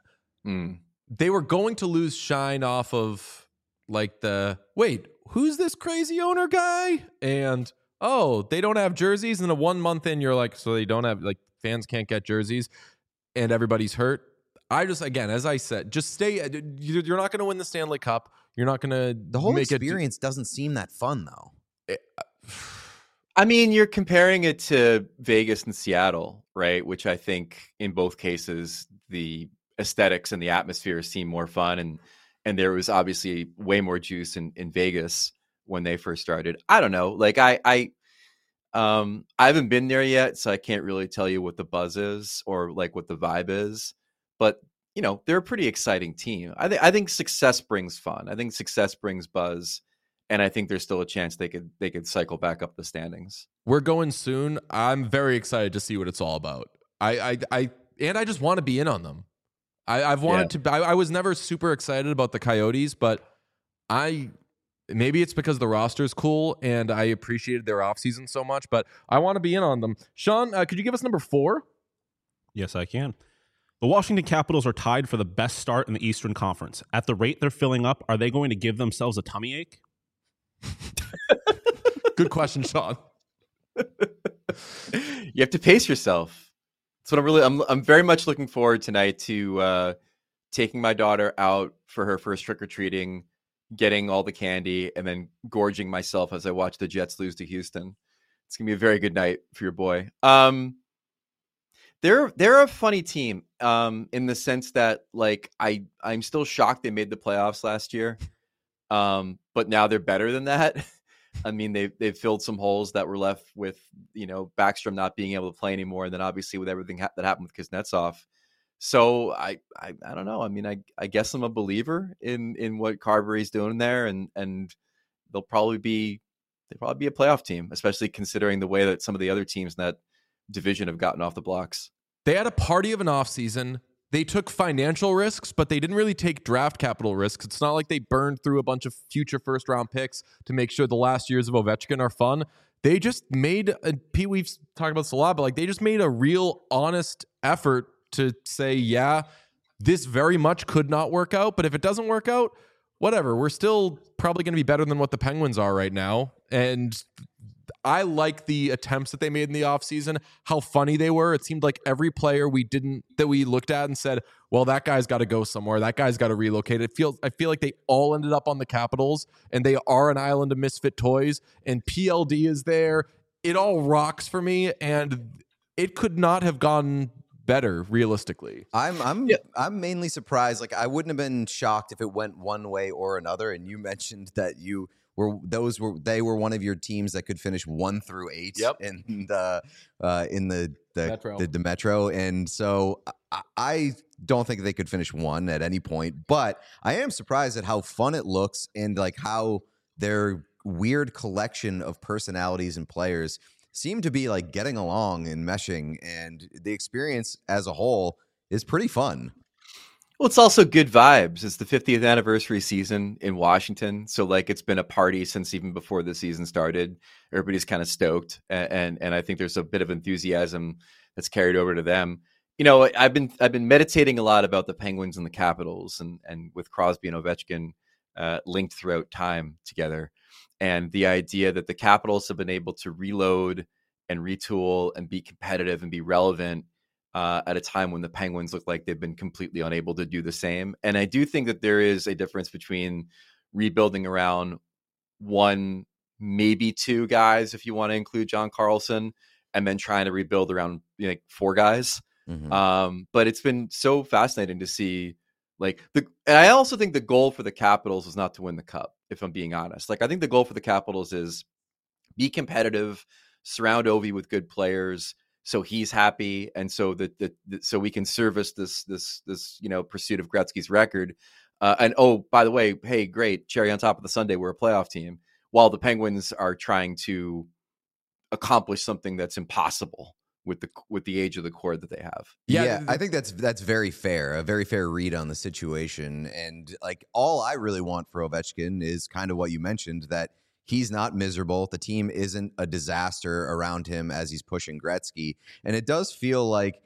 They were going to lose shine off of like wait, who's this crazy owner guy? And they don't have jerseys. And a 1 month in, you're like, so they don't have, like, fans can't get jerseys and everybody's hurt. I just, again, as I said, just stay. You're not going to win the Stanley Cup. You're not going to. The whole experience doesn't seem that fun, though. I mean, you're comparing it to Vegas and Seattle, right? Which I think in both cases, the aesthetics and the atmosphere seem more fun. And there was obviously way more juice in Vegas when they first started. I don't know. Like I haven't been there yet, so I can't really tell you what the buzz is or like what the vibe is. But they're a pretty exciting team. I think success brings fun. I think success brings buzz, and I think there's still a chance they could cycle back up the standings. We're going soon. I'm very excited to see what it's all about. I just want to be in on them. I've wanted to. I was never super excited about the Coyotes, but maybe it's because the roster's cool and I appreciated their offseason so much. But I want to be in on them. Sean, could you give us number 4? Yes, I can. The Washington Capitals are tied for the best start in the Eastern Conference. At the rate they're filling up, are they going to give themselves a tummy ache? Good question, Sean. You have to pace yourself. That's what I'm very much looking forward tonight to taking my daughter out for her first trick-or-treating, getting all the candy, and then gorging myself as I watch the Jets lose to Houston. It's gonna be a very good night for your boy. They're a funny team in the sense that like I'm still shocked they made the playoffs last year, but now they're better than that. I mean, they've filled some holes that were left with Backstrom not being able to play anymore, and then obviously with everything that happened with Kuznetsov. So I don't know. I mean, I guess I'm a believer in what Carbery's doing there, and they'll probably be a playoff team, especially considering the way that some of the other teams in that division have gotten off the blocks. They had a party of an offseason. They took financial risks, but they didn't really take draft capital risks. It's not like they burned through a bunch of future first-round picks to make sure the last years of Ovechkin are fun. They just made, Pete, we've talked about this a lot, but like they just made a real honest effort to say, yeah, this very much could not work out, but if it doesn't work out, whatever. We're still probably going to be better than what the Penguins are right now. And I like the attempts that they made in the offseason, how funny they were. It seemed like every player that we looked at and said, well, that guy's got to go somewhere. That guy's got to relocate. I feel like they all ended up on the Capitals, and they are an island of misfit toys, and PLD is there. It all rocks for me, and it could not have gone better realistically. I'm mainly surprised. Like I wouldn't have been shocked if it went one way or another. And you mentioned that they were one of your teams that could finish 1 through 8 in the Metro. And so I don't think they could finish 1 at any point, but I am surprised at how fun it looks and like how their weird collection of personalities and players seem to be like getting along and meshing, and the experience as a whole is pretty fun. Well, it's also good vibes. It's the 50th anniversary season in Washington. So like it's been a party since even before the season started. Everybody's kind of stoked. And I think there's a bit of enthusiasm that's carried over to them. I've been meditating a lot about the Penguins and the Capitals and with Crosby and Ovechkin linked throughout time together. And the idea that the Capitals have been able to reload and retool and be competitive and be relevant at a time when the Penguins look like they've been completely unable to do the same. And I do think that there is a difference between rebuilding around 1, maybe 2 guys, if you want to include John Carlson, and then trying to rebuild around 4 guys. Mm-hmm. But it's been so fascinating to see and I also think the goal for the Capitals is not to win the cup, if I'm being honest. Like I think the goal for the Capitals is be competitive, surround Ovi with good players, so he's happy, and so so we can service this pursuit of Gretzky's record. And oh, by the way, hey, great, cherry on top of the sundae, we're a playoff team. While the Penguins are trying to accomplish something that's impossible with the age of the core that they have. Yeah, I think that's very fair, a very fair read on the situation. And like all I really want for Ovechkin is kind of what you mentioned, that he's not miserable. The team isn't a disaster around him as he's pushing Gretzky. And it does feel like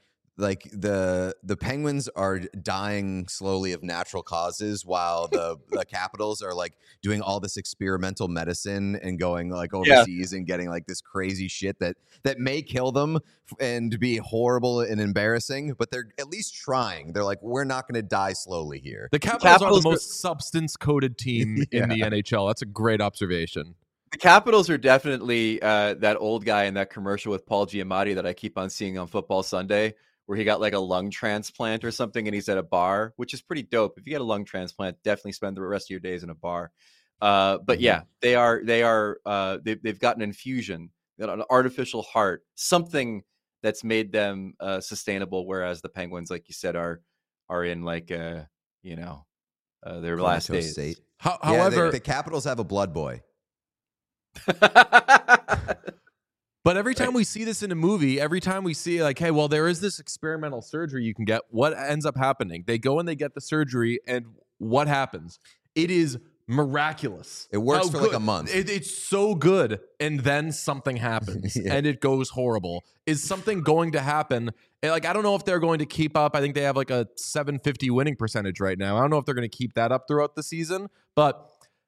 the Penguins are dying slowly of natural causes while the Capitals are like doing all this experimental medicine and going like overseas and getting like this crazy shit that may kill them and be horrible and embarrassing, but they're at least trying. They're like, we're not going to die slowly here. The Capitals are the most substance-coated team in the NHL. That's a great observation. The Capitals are definitely that old guy in that commercial with Paul Giamatti that I keep on seeing on Football Sunday, where he got like a lung transplant or something and he's at a bar, which is pretty dope. If you get a lung transplant, definitely spend the rest of your days in a bar. But yeah, they've got an infusion, got an artificial heart, something that's made them sustainable. Whereas the Penguins, like you said, are in like, their last days. State. However, the Capitals have a blood boy. But every time we see this in a movie, every time we see like, hey, well, there is this experimental surgery you can get, what ends up happening? They go and they get the surgery, and what happens? It is miraculous. It works How for like good- a month. It's so good, and then something happens, Yeah. and it goes horrible. Is something going to happen? And, like, I don't know if they're going to keep up. I think they have like a 750 winning percentage right now. I don't know if they're going to keep that up throughout the season, but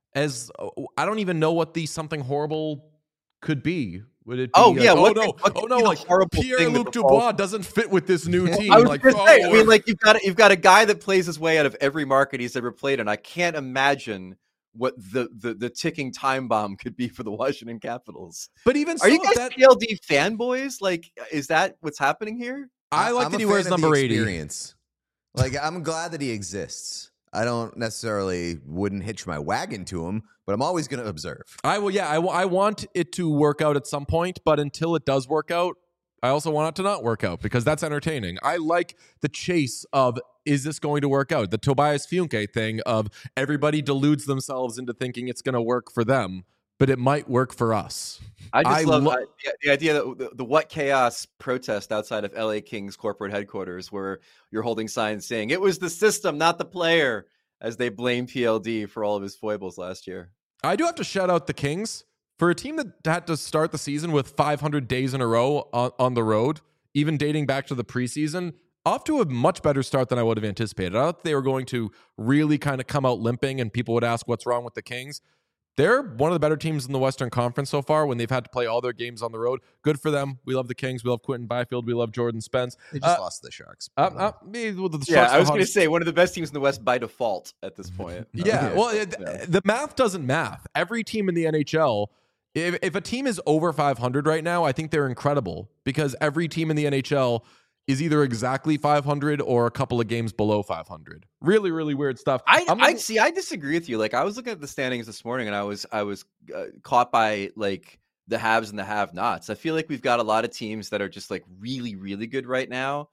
I don't even know what the something horrible could be. Would it be Oh, like, yeah, oh what no, could be the like horrible thing that Pierre-Luc befalls- Dubois doesn't fit with this new team. I was Like, gonna say, I we're- mean, like you've got a guy that plays his way out of every market he's ever played in. I can't imagine what the ticking time bomb could be for the Washington Capitals. but even Are you so, guys PLD fanboys? Like, is that what's happening here? I like I'm that a he fan wears of the number 80. experience. Like, I'm glad that he exists. I don't necessarily wouldn't hitch my wagon to him, but I'm always going to observe. I want it to work out at some point, but until it does work out, I also want it to not work out because that's entertaining. I like the chase of, is this going to work out? The Tobias Funke thing of everybody deludes themselves into thinking it's going to work for them, but it might work for us. I just I love lo- the idea that the What Chaos protest outside of LA Kings corporate headquarters, where you're holding signs saying it was the system, not the player, as they blame PLD for all of his foibles last year. I do have to shout out the Kings. For a team that had to start the season with 500 days in a row on the road, even dating back to the preseason, off to a much better start than I would have anticipated. I thought they were going to really kind of come out limping and people would ask what's wrong with the Kings. They're one of the better teams in the Western Conference so far when they've had to play all their games on the road. Good for them. We love the Kings. We love Quentin Byfield. We love Jordan Spence. They just lost to the Sharks. The Yeah, Sharks I are was going to hottest- say one of the best teams in the West by default at this point. Yeah, well, Yeah. the math doesn't math. Every team in the NHL, if a team is over 500 right now, I think they're incredible because every team in the NHL is either exactly 500 or a couple of games below 500. Really, really weird stuff. I disagree with you. Like, I was looking at the standings this morning, and I was caught by like the haves and the have-nots. I feel like we've got a lot of teams that are just like really, really good right now,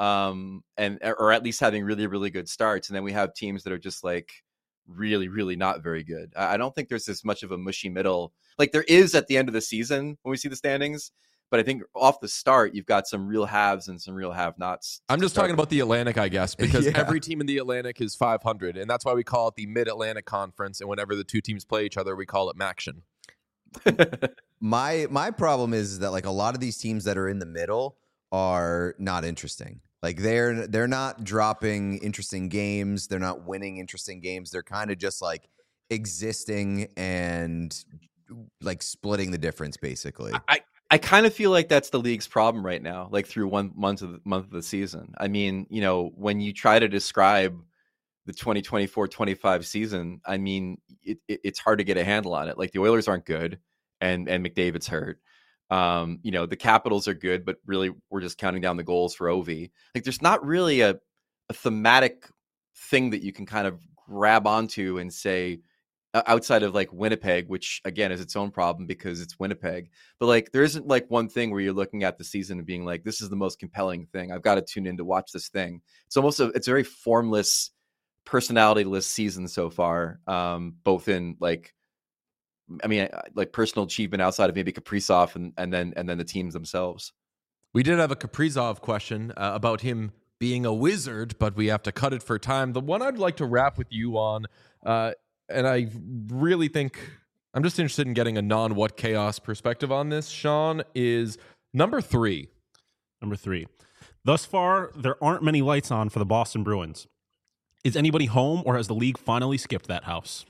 or at least having really, really good starts, and then we have teams that are just like really, really not very good. I don't think there's as much of a mushy middle like there is at the end of the season when we see the standings. But I think off the start, you've got some real haves and some real have-nots. I'm just talking about the Atlantic, I guess, because Yeah. every team in the Atlantic is 500, and that's why we call it the Mid-Atlantic Conference. And whenever the two teams play each other, we call it Maction. My problem is that like a lot of these teams that are in the middle are not interesting. Like they're not dropping interesting games. They're not winning interesting games. They're kind of just like existing and like splitting the difference, basically. I kind of feel like that's the league's problem right now, like through 1 month of the season. I mean, you know, when you try to describe the 2024-25 season, I mean, it's hard to get a handle on it. Like the Oilers aren't good and McDavid's hurt. You know, the Capitals are good, but really we're just counting down the goals for Ovi. Like there's not really a thematic thing that you can kind of grab onto and say, outside of like Winnipeg, which again is its own problem because it's Winnipeg, but like there isn't like one thing where you're looking at the season and being like, this is the most compelling thing. I've got to tune in to watch this thing. It's almost it's a very formless, personality-less season so far, both in like, I mean, like personal achievement outside of maybe Kaprizov and then the teams themselves. We did have a Kaprizov question about him being a wizard, but we have to cut it for time. The one I'd like to wrap with you on, and I really think I'm just interested in getting a non-What Chaos perspective on this, Sean, is number 3. Number 3. Thus far, there aren't many lights on for the Boston Bruins. Is anybody home, or has the league finally skipped that house?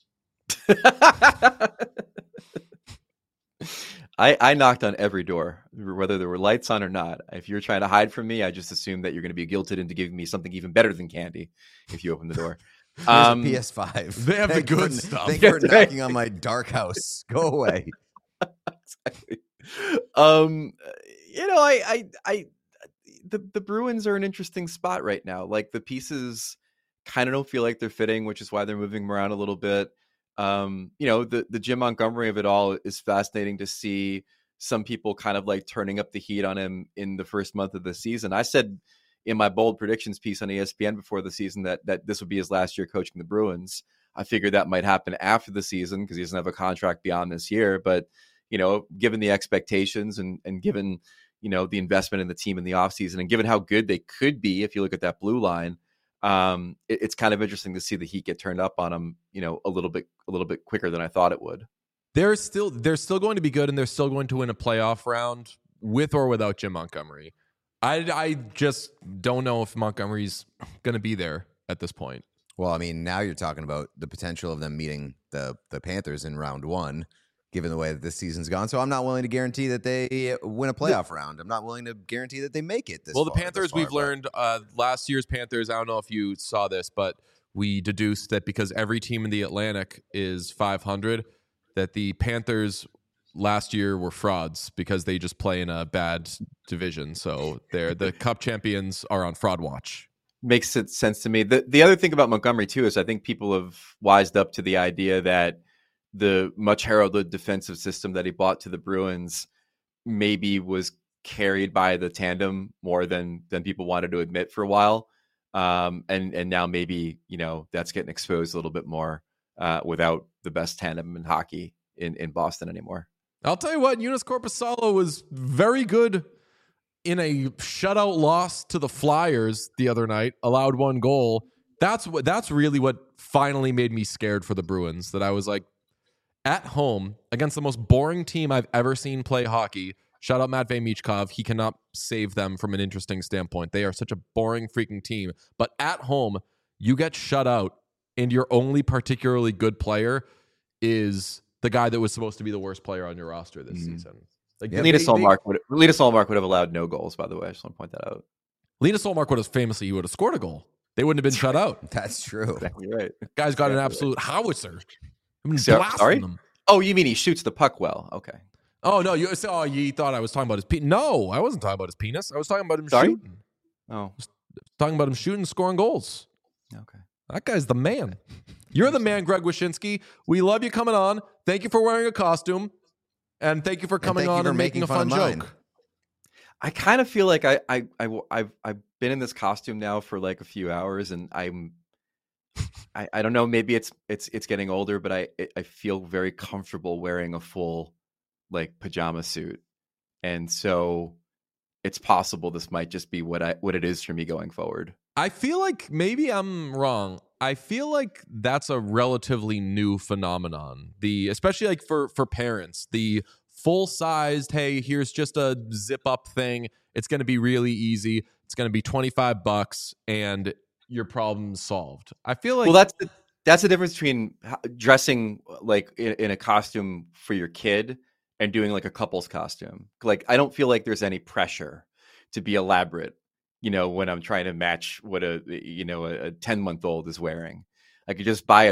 I knocked on every door, whether there were lights on or not. If you're trying to hide from me, I just assume that you're going to be guilted into giving me something even better than candy if you open the door. Here's a PS5. They have the Thank you good for- stuff. Thank you for Yeah, right. knocking on my dark house. Go away. Exactly. You know, the Bruins are an interesting spot right now. Like the pieces kind of don't feel like they're fitting, which is why they're moving them around a little bit. You know, the Jim Montgomery of it all is fascinating to see. Some people kind of like turning up the heat on him in the first month of the season. I said in my bold predictions piece on ESPN before the season that this would be his last year coaching the Bruins. I figured that might happen after the season because he doesn't have a contract beyond this year. But, you know, given the expectations and given, you know, the investment in the team in the offseason and given how good they could be, if you look at that blue line, It's kind of interesting to see the heat get turned up on them, a little bit quicker than I thought it would. They're still going to be good, and they're still going to win a playoff round with or without Jim Montgomery. I just don't know if Montgomery's going to be there at this point. Well, I mean, now you're talking about the potential of them meeting the Panthers in round one, given the way that this season's gone. So I'm not willing to guarantee that they win a playoff round. I'm not willing to guarantee that they make it this Well, the far, Panthers, we've learned last year's Panthers, I don't know if you saw this, but we deduced that because every team in the Atlantic is 500, that the Panthers last year were frauds because they just play in a bad division. So the Cup champions are on fraud watch. Makes sense to me. The other thing about Montgomery too is I think people have wised up to the idea that the much heralded defensive system that he brought to the Bruins maybe was carried by the tandem more than people wanted to admit for a while. And now maybe, that's getting exposed a little bit more without the best tandem in hockey in Boston anymore. I'll tell you what, Joonas Korpisalo was very good in a shutout loss to the Flyers the other night, allowed one goal. That's really what finally made me scared for the Bruins, that I was like, at home against the most boring team I've ever seen play hockey. Shout out Matvei Michkov. He cannot save them from an interesting standpoint. They are such a boring freaking team. But at home, you get shut out, and your only particularly good player is the guy that was supposed to be the worst player on your roster this season. Like, Linus Ullmark would have allowed no goals, by the way. I just want to point that out. Linus Ullmark would have scored a goal. They wouldn't have been shut out. That's true. Exactly right. Guy's got an absolute howitzer. I mean, Sorry? them. Oh, you mean he shoots the puck well? Okay. Oh, no. You thought I was talking about his penis. No, I wasn't talking about his penis. I was talking about him shooting. Oh. Talking about him shooting, scoring goals. Okay. That guy's the man. You're the man, Greg Wyshynski. We love you coming on. Thank you for wearing a costume. And thank you for coming on and making a fun joke. I kind of feel like I've been in this costume now for like a few hours, and I don't know. Maybe it's getting older, but I feel very comfortable wearing a full like pajama suit, and so it's possible this might just be what it is for me going forward. I feel like maybe I'm wrong. I feel like that's a relatively new phenomenon. Especially like for parents, the full-sized, hey, here's just a zip-up thing. It's going to be really easy. It's going to be $25 and your problem's solved. I feel like that's the difference between dressing like in a costume for your kid and doing like a couple's costume. Like, I don't feel like there's any pressure to be elaborate, when I'm trying to match what a 10-month-old is wearing. I could just buy a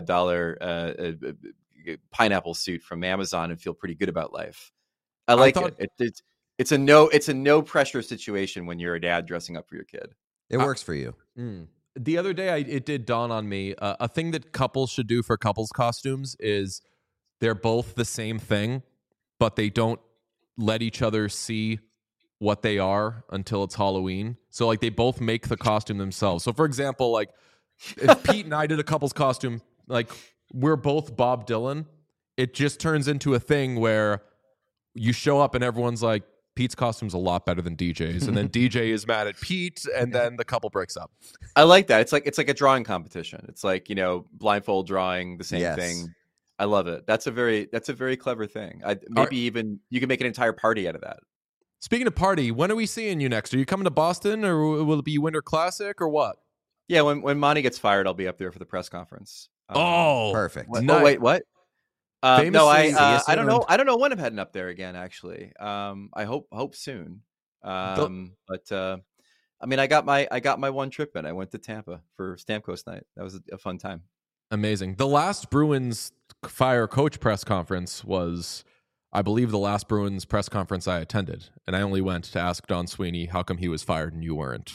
$25 pineapple suit from Amazon and feel pretty good about life. I like it. It's a no pressure situation when you're a dad dressing up for your kid. It works for you. The other day, it did dawn on me, a thing that couples should do for couples costumes is they're both the same thing, but they don't let each other see what they are until it's Halloween. So like they both make the costume themselves. So for example, like if Pete and I did a couple's costume, like we're both Bob Dylan, it just turns into a thing where you show up and everyone's like, Pete's costume's a lot better than DJ's, and then DJ is mad at Pete, and then the couple breaks up. I like that. It's like a drawing competition. It's like, blindfold drawing the same thing. I love it. That's a very clever thing. Even you can make an entire party out of that. Speaking of party, when are we seeing you next? Are you coming to Boston, or will it be Winter Classic, or what? Yeah, when Monty gets fired, I'll be up there for the press conference. Perfect. Oh, wait, what? No, I don't know. I don't know when I'm heading up there again. Actually, I hope soon. But I mean, I got my one trip in. I went to Tampa for Stamkos night. That was a fun time. Amazing. The last Bruins fire coach press conference was, I believe, the last Bruins press conference I attended, and I only went to ask Don Sweeney how come he was fired and you weren't.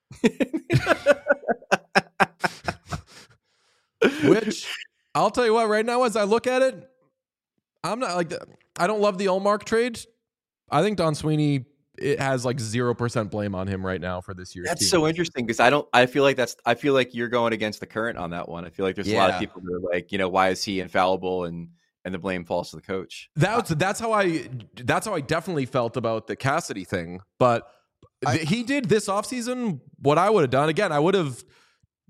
Which, I'll tell you what, right now, as I look at it, I'm not like, I don't love the Ullmark trade. I think Don Sweeney, it has like 0% blame on him right now for this year's That's team. so interesting because I feel like you're going against the current on that one. I feel like there's a lot of people who are like, why is he infallible, and the blame falls to the coach. That's how I definitely felt about the Cassidy thing. But he did this offseason what I would have done. Again, I would have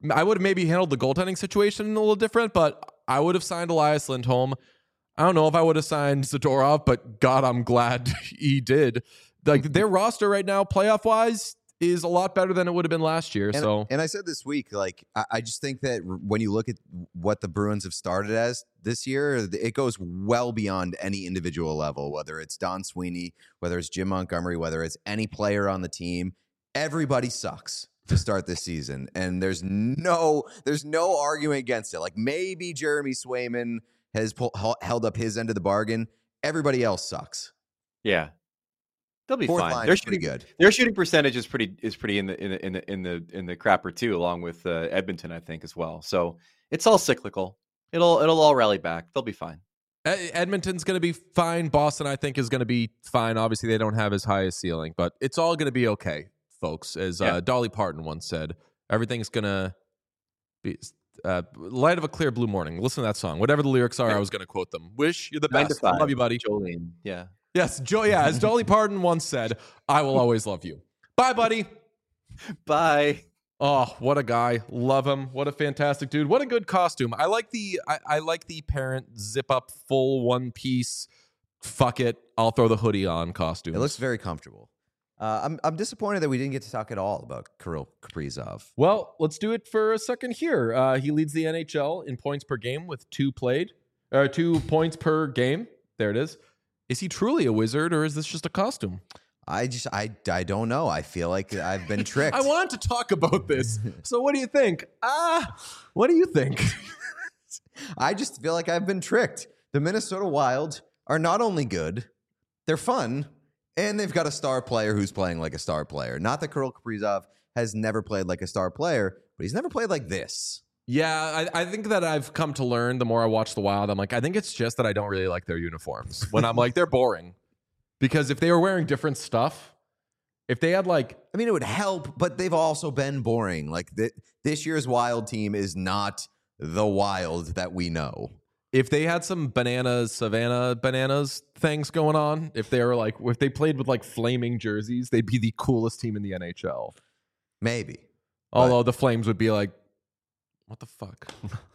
I would have maybe handled the goaltending situation a little different, but I would have signed Elias Lindholm. I don't know if I would have signed Zadorov, but God, I'm glad he did. Like their roster right now, playoff wise, is a lot better than it would have been last year. And I said this week, like I just think that when you look at what the Bruins have started as this year, it goes well beyond any individual level. Whether it's Don Sweeney, whether it's Jim Montgomery, whether it's any player on the team, everybody sucks to start this season, and there's no arguing against it. Like maybe Jeremy Swayman has held up his end of the bargain. Everybody else sucks. Yeah. They'll be Fourth fine. line They're is pretty good. Their shooting percentage is pretty in the crapper too, along with Edmonton, I think, as well. So it's all cyclical. It'll all rally back. They'll be fine. Edmonton's going to be fine. Boston, I think, is going to be fine. Obviously, they don't have as high a ceiling, but it's all going to be okay, folks. As Dolly Parton once said, everything's going to be light of a clear blue morning. Listen to that song. Whatever the lyrics are, I was going to quote them. Wish you're the 9 to best. 5. Love you, buddy. Jolene. Yeah. Yes, as Dolly Parton once said, I will always love you. Bye, buddy. Bye. Oh, what a guy. Love him. What a fantastic dude. What a good costume. I like the parent zip up full one piece. Fuck it. I'll throw the hoodie on costume. It looks very comfortable. I'm disappointed that we didn't get to talk at all about Kirill Kaprizov. Well, let's do it for a second here. He leads the NHL in points per game with 2 points per game. There it is. Is he truly a wizard, or is this just a costume? I don't know. I feel like I've been tricked. I wanted to talk about this. So what do you think? What do you think? I just feel like I've been tricked. The Minnesota Wild are not only good, they're fun, and they've got a star player who's playing like a star player. Not that Kirill Kaprizov has never played like a star player, but he's never played like this. Yeah, I think that I've come to learn the more I watch the Wild, I'm like, I think it's just that I don't really like their uniforms. When I'm like, they're boring. Because if they were wearing different stuff, if they had like... I mean, it would help, but they've also been boring. Like, this year's Wild team is not the Wild that we know. If they had some Savannah bananas things going on, if they played with like flaming jerseys, they'd be the coolest team in the NHL. Maybe. Although the Flames would be like, what the fuck?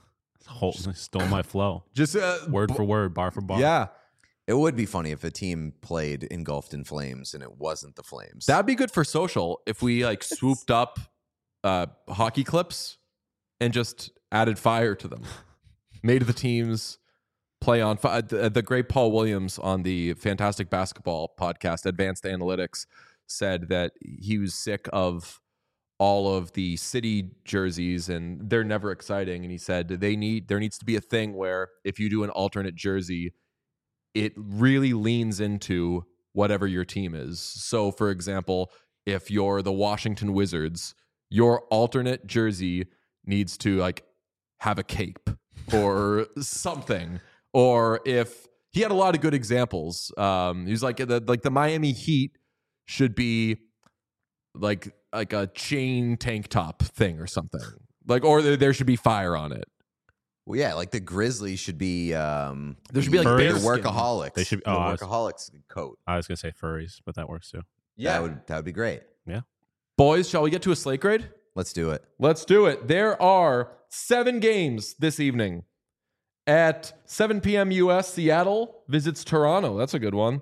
Stole my flow. Just word for word, bar for bar. Yeah. It would be funny if a team played engulfed in flames and it wasn't the Flames. That'd be good for social if we like swooped up hockey clips and just added fire to them. Made the teams play on fire. The great Paul Williams on the Fantastic Basketball podcast, Advanced Analytics, said that he was sick of all of the city jerseys and they're never exciting. And he said there needs to be a thing where if you do an alternate jersey, it really leans into whatever your team is. So, for example, if you're the Washington Wizards, your alternate jersey needs to like have a cape or something. Or if he had a lot of good examples, he was like the Miami Heat should be like a chain tank top thing or something. Like, or there should be fire on it. Well, yeah, like the Grizzlies should be. There should be like the bearskin. workaholics. They should. The workaholics coat. I was gonna say furries, but that works too. Yeah, that would be great. Yeah, boys, shall we get to a slate grade? Let's do it. Let's do it. There are 7 games this evening. At 7 p.m. U.S., Seattle visits Toronto. That's a good one.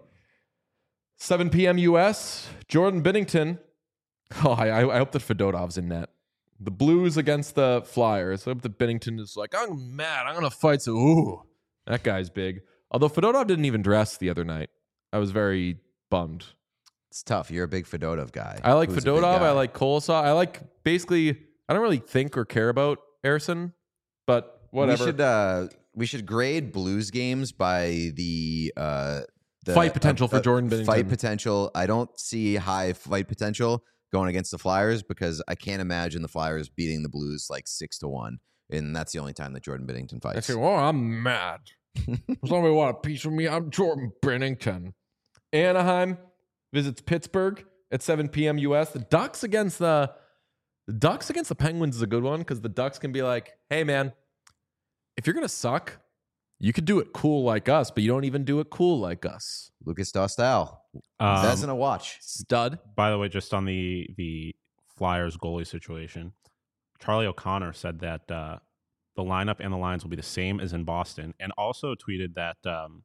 7 p.m. U.S., Jordan Binnington. Oh, I hope that Fedotov's in net. The Blues against the Flyers. I hope that Binnington is like, I'm mad. I'm going to fight. So, ooh, that guy's big. Although Fedotov didn't even dress the other night. I was very bummed. It's tough. You're a big Fedotov guy. I like Fedotov. I like Kolosov. I like basically, I don't really think or care about Ersson, but whatever. We should grade Blues games by the fight potential for Jordan Binnington. Fight potential. I don't see high fight potential going against the Flyers because I can't imagine the Flyers beating the Blues like 6-1, and that's the only time that Jordan Binnington fights. I say, well, I'm mad. Somebody want a piece of me? I'm Jordan Binnington. Anaheim visits Pittsburgh at 7 p.m. U.S. The Ducks against the Penguins is a good one because the Ducks can be like, hey, man, if you're going to suck, you could do it cool like us, but you don't even do it cool like us. Lucas Dostal. That's in a watch. Stud. By the way, just on the Flyers goalie situation, Charlie O'Connor said that the lineup and the lines will be the same as in Boston, and also tweeted that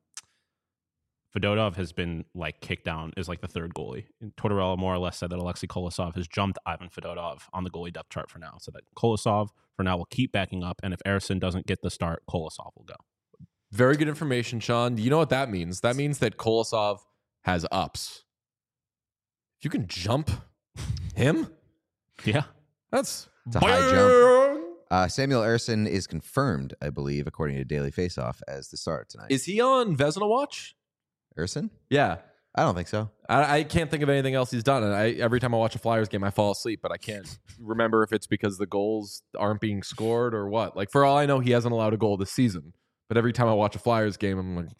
Fedotov has been like kicked down as like the third goalie. And Tortorella more or less said that Alexei Kolosov has jumped Ivan Fedotov on the goalie depth chart for now, so that Kolosov for now will keep backing up, and if Ersson doesn't get the start, Kolosov will go. Very good information, Sean. You know what that means? That means that Kolosov has ups. If you can jump him, Yeah. that's It's a high jump. Samuel Ersson is confirmed, I believe, according to Daily Faceoff, as the starter tonight. Is he on Vezina watch? Ersson? Yeah. I don't think so. I can't think of anything else he's done. And every time I watch a Flyers game, I fall asleep, but I can't remember if it's because the goals aren't being scored or what. Like, for all I know, he hasn't allowed a goal this season. But every time I watch a Flyers game, I'm like,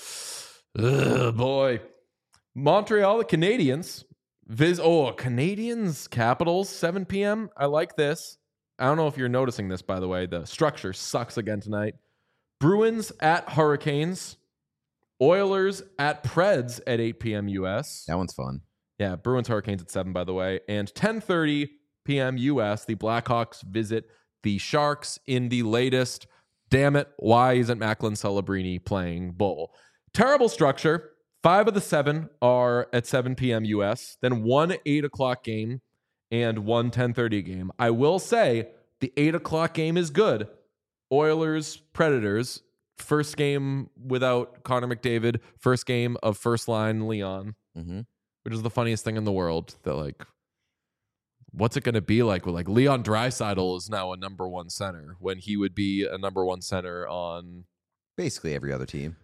ugh, boy. Montreal, the Canadiens. Canadiens, Capitals, 7 p.m. I like this. I don't know if you're noticing this, by the way. The structure sucks again tonight. Bruins at Hurricanes. Oilers at Preds at 8 p.m. U.S. That one's fun. Yeah, Bruins Hurricanes at 7, by the way. And 10:30 p.m. U.S., the Blackhawks visit the Sharks in the latest, damn it, why isn't Macklin Celebrini playing bowl? Terrible structure. 5 of the 7 are at 7 p.m. U.S., then 1 8 o'clock game and 1 10:30 game. I will say the 8 o'clock game is good. Oilers, Predators, first game without Connor McDavid, first game of first line Leon, which is the funniest thing in the world. That like, what's it going to be like? Well, like Leon Draisaitl is now a number 1 center when he would be a number 1 center on Basically every other team.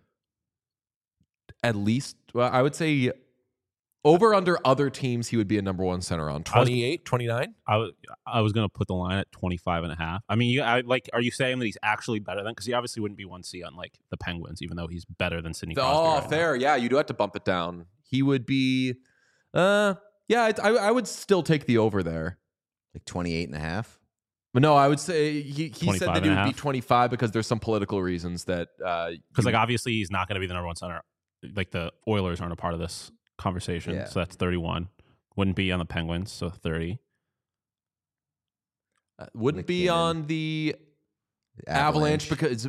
at least, well, I would say over under other teams, he would be a number 1 center on 28, 29. I was going to put the line at 25.5. I mean, are you saying that he's actually better than? Because he obviously wouldn't be 1C on like the Penguins, even though he's better than Sidney Crosby. Oh, right fair. Yeah, you do have to bump it down. He would be, I would still take the over there. Like 28 and a half. But no, I would say he said that he would be 25.5. 25 because there's some political reasons that Because like obviously he's not going to be the number 1 center. Like the Oilers aren't a part of this conversation, Yeah. so that's 31. Wouldn't be on the Penguins, so 30. wouldn't be McKinnon. on the Avalanche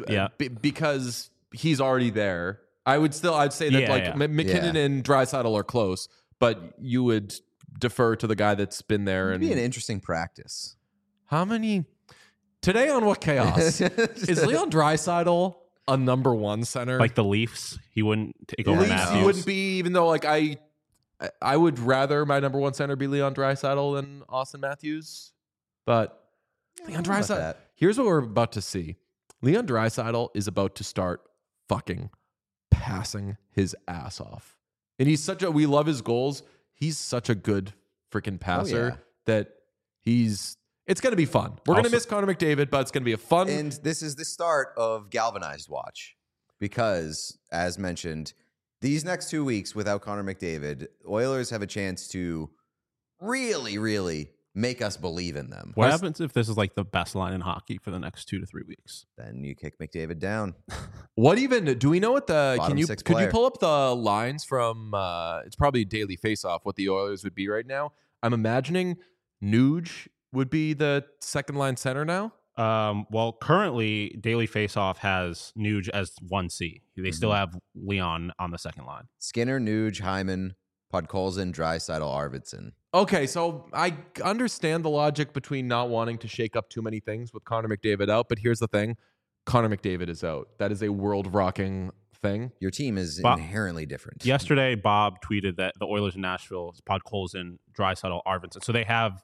because he's already there. I'd say that McKinnon and Draisaitl are close, but you would defer to the guy that's been there. It'd And be an interesting practice. how many today on What Chaos is Leon Draisaitl a number 1 center? Like the Leafs, he wouldn't take The over Leafs, Matthews. he wouldn't be, even though like I would rather my number 1 center be Leon Draisaitl than Austin Matthews. But Leon I don't know about Draisaitl, that. here's what we're about to see. Leon Draisaitl is about to start fucking passing his ass off. And we love his goals. He's such a good freaking passer that it's going to be fun. We're going to Also- miss Connor McDavid, but it's going to be a fun. And this is the start of Galvanized Watch because, as mentioned, these next 2 weeks without Connor McDavid, Oilers have a chance to really, really make us believe in them. What happens if this is like the best line in hockey for the next 2 to 3 weeks? Then you kick McDavid down. What even do we know what the Bottom could six you player. pull up the lines from it's probably Daily Faceoff what the Oilers would be right now? I'm imagining Nuge would be the second line center now. Well, currently Daily Faceoff has Nuge as 1C. They still have Leon on the second line. Skinner, Nuge, Hyman, Podkolzin, Draisaitl, Arvidsson. Okay, so I understand the logic between not wanting to shake up too many things with Connor McDavid out, but here's the thing. Connor McDavid is out. That is a world-rocking thing. Your team is Bob- inherently different. Yesterday, Bob tweeted that the Oilers in Nashville, Podkolzin, Draisaitl, Arvidsson. So they have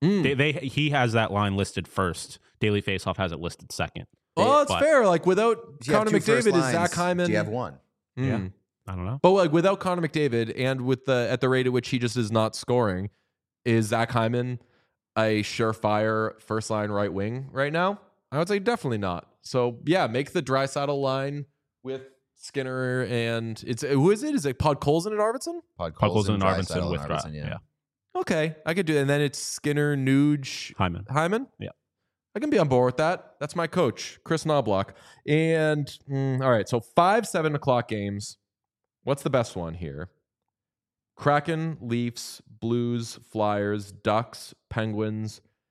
he has that line listed first. Daily Faceoff has it listed second. Oh, that's But- fair. Like without Do you have Connor two first McDavid, is lines? Zach Hyman. Do you have one? Mm. I don't know. But like without Connor McDavid and with at the rate at which he just is not scoring, is Zach Hyman a surefire first line right wing right now? I would say definitely not. So yeah, make the Draisaitl line with Skinner and who is it? Is it Podkolzin and Arvidsson? Podkolzin and Arvidsson Draisaitl with and Arvidsson, Arvidsson, yeah. Okay, I could do it. And then it's Skinner, Nuge, Hyman. Yeah. I can be on board with that. That's my coach, Chris Knobloch. And all right, so 5 7 o'clock games. What's the best one here? Kraken, Leafs, Blues, Flyers, Ducks, Penguins,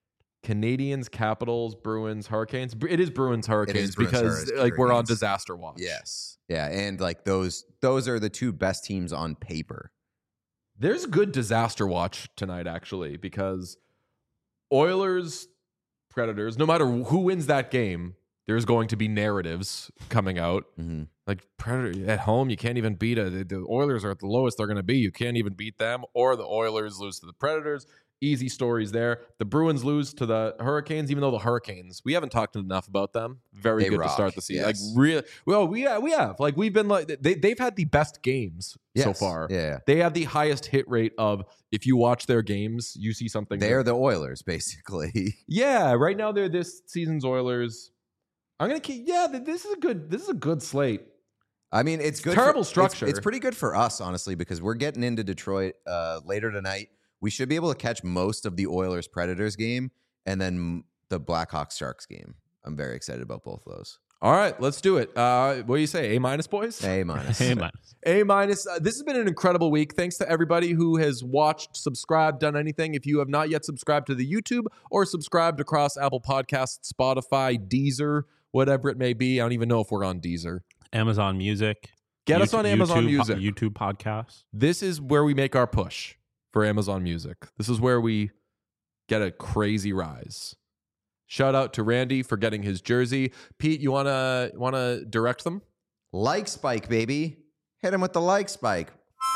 Canadians, Capitals, Bruins, Hurricanes. It is Bruins, Hurricanes Bruins, because like we're on Hurricanes. disaster watch. Yes. Yeah, and like those are the two best teams on paper. There's a good disaster watch tonight, actually, because Oilers, Predators, no matter who wins that game, there's going to be narratives coming out. Mm-hmm. Like, Predator at home, you can't even beat it. The Oilers are at the lowest they're going to be. You can't even beat them. Or the Oilers lose to the Predators. Easy stories there. The Bruins lose to the Hurricanes, even though the Hurricanes, we haven't talked enough about them. Very They good rock, to start the season. yes. Like, really, well, we have. Like, we've been like, they've had the best games so Yes. far. Yeah. They have the highest hit rate of, if you watch their games, you see something. They're the Oilers, basically. Yeah, right now they're this season's Oilers. I'm gonna keep. Yeah, this is a good slate. I mean, it's good. Terrible structure. It's pretty good for us, honestly, because we're getting into Detroit later tonight. We should be able to catch most of the Oilers Predators game and then the Blackhawks Sharks game. I'm very excited about both of those. All right, let's do it. What do you say? A-, boys? A minus. Hey, man. A-. This has been an incredible week. Thanks to everybody who has watched, subscribed, done anything. If you have not yet subscribed to the YouTube or subscribed across Apple Podcasts, Spotify, Deezer, whatever it may be. I don't even know if we're on Deezer. Amazon Music. Get us on Amazon Music. YouTube podcasts. This is where we make our push for Amazon Music. This is where we get a crazy rise. Shout out to Randy for getting his jersey. Pete, you wanna direct them? Like spike, baby. Hit him with the like spike.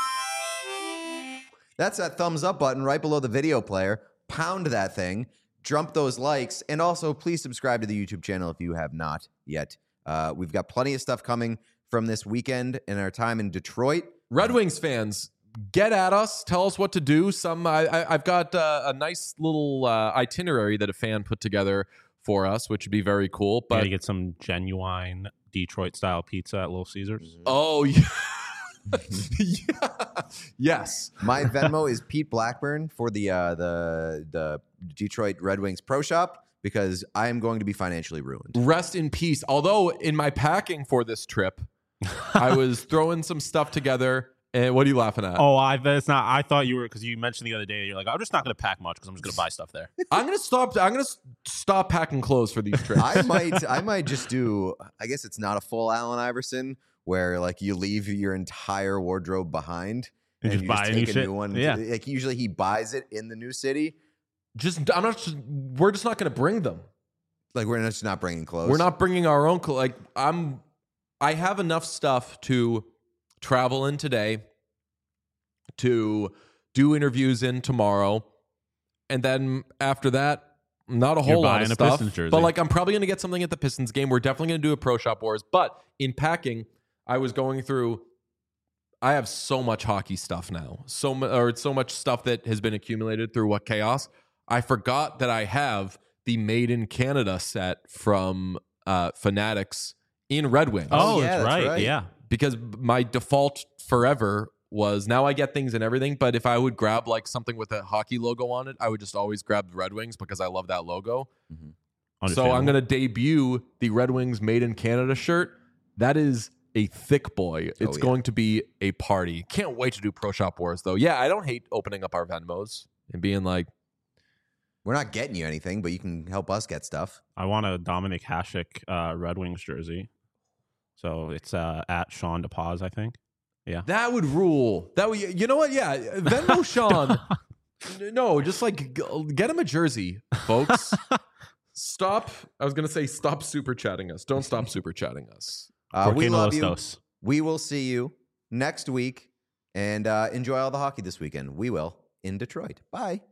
That's that thumbs up button right below the video player. Pound that thing. Jump those likes. And also, please subscribe to the YouTube channel if you have not yet. We've got plenty of stuff coming from this weekend and our time in Detroit. Red Wings fans, get at us. Tell us what to do. I've got a nice little itinerary that a fan put together for us, which would be very cool. But But you get some genuine Detroit style pizza at Little Caesars. oh yeah. Yeah. Yes. My Venmo is Pete Blackburn for the Detroit Red Wings Pro Shop because I am going to be financially ruined. Rest in peace. Although in my packing for this trip, I was throwing some stuff together. And what are you laughing at? Oh, it's not. I thought you were, because you mentioned the other day. You're like, I'm just not going to pack much because I'm just going to buy stuff there. I'm gonna stop packing clothes for these trips. I might just do. I guess it's not a full Allen Iverson where like you leave your entire wardrobe behind And just you buy just new take a shit. new one. Yeah. Like usually he buys it in the new city. We're just not gonna bring them. Like we're just not bringing clothes. We're not bringing our own clothes. Like I have enough stuff to travel in today, to do interviews in tomorrow, and then after that, not a whole lot of buying a stuff. Pistons jersey. But like I'm probably gonna get something at the Pistons game. We're definitely gonna do a Pro Shop Wars. But in packing, I was going through. I have so much hockey stuff now, so much stuff that has been accumulated through What Chaos. I forgot that I have the Made in Canada set from Fanatics in Red Wings. Oh, yeah, that's that's right. right. Yeah. Because my default forever was, now I get things and everything, but if I would grab like something with a hockey logo on it, I would just always grab the Red Wings because I love that logo. So I'm going to debut the Red Wings Made in Canada shirt. That is a thick boy. It's yeah. going to be a party. Can't wait to do Pro Shop Wars though. Yeah, I don't hate opening up our Venmos and being like, We're not getting you anything, but you can help us get stuff. I want a Dominic Hasek Red Wings jersey. So it's at Sean DePaz, I think. Yeah. that would rule. That would, you know what? Yeah, Venmo Sean. No, just like get him a jersey, folks. Stop. I was going to say stop super chatting us. Don't stop super chatting us. We Porque love no you. los dos. We will see you next week and enjoy all the hockey this weekend. We will in Detroit. Bye.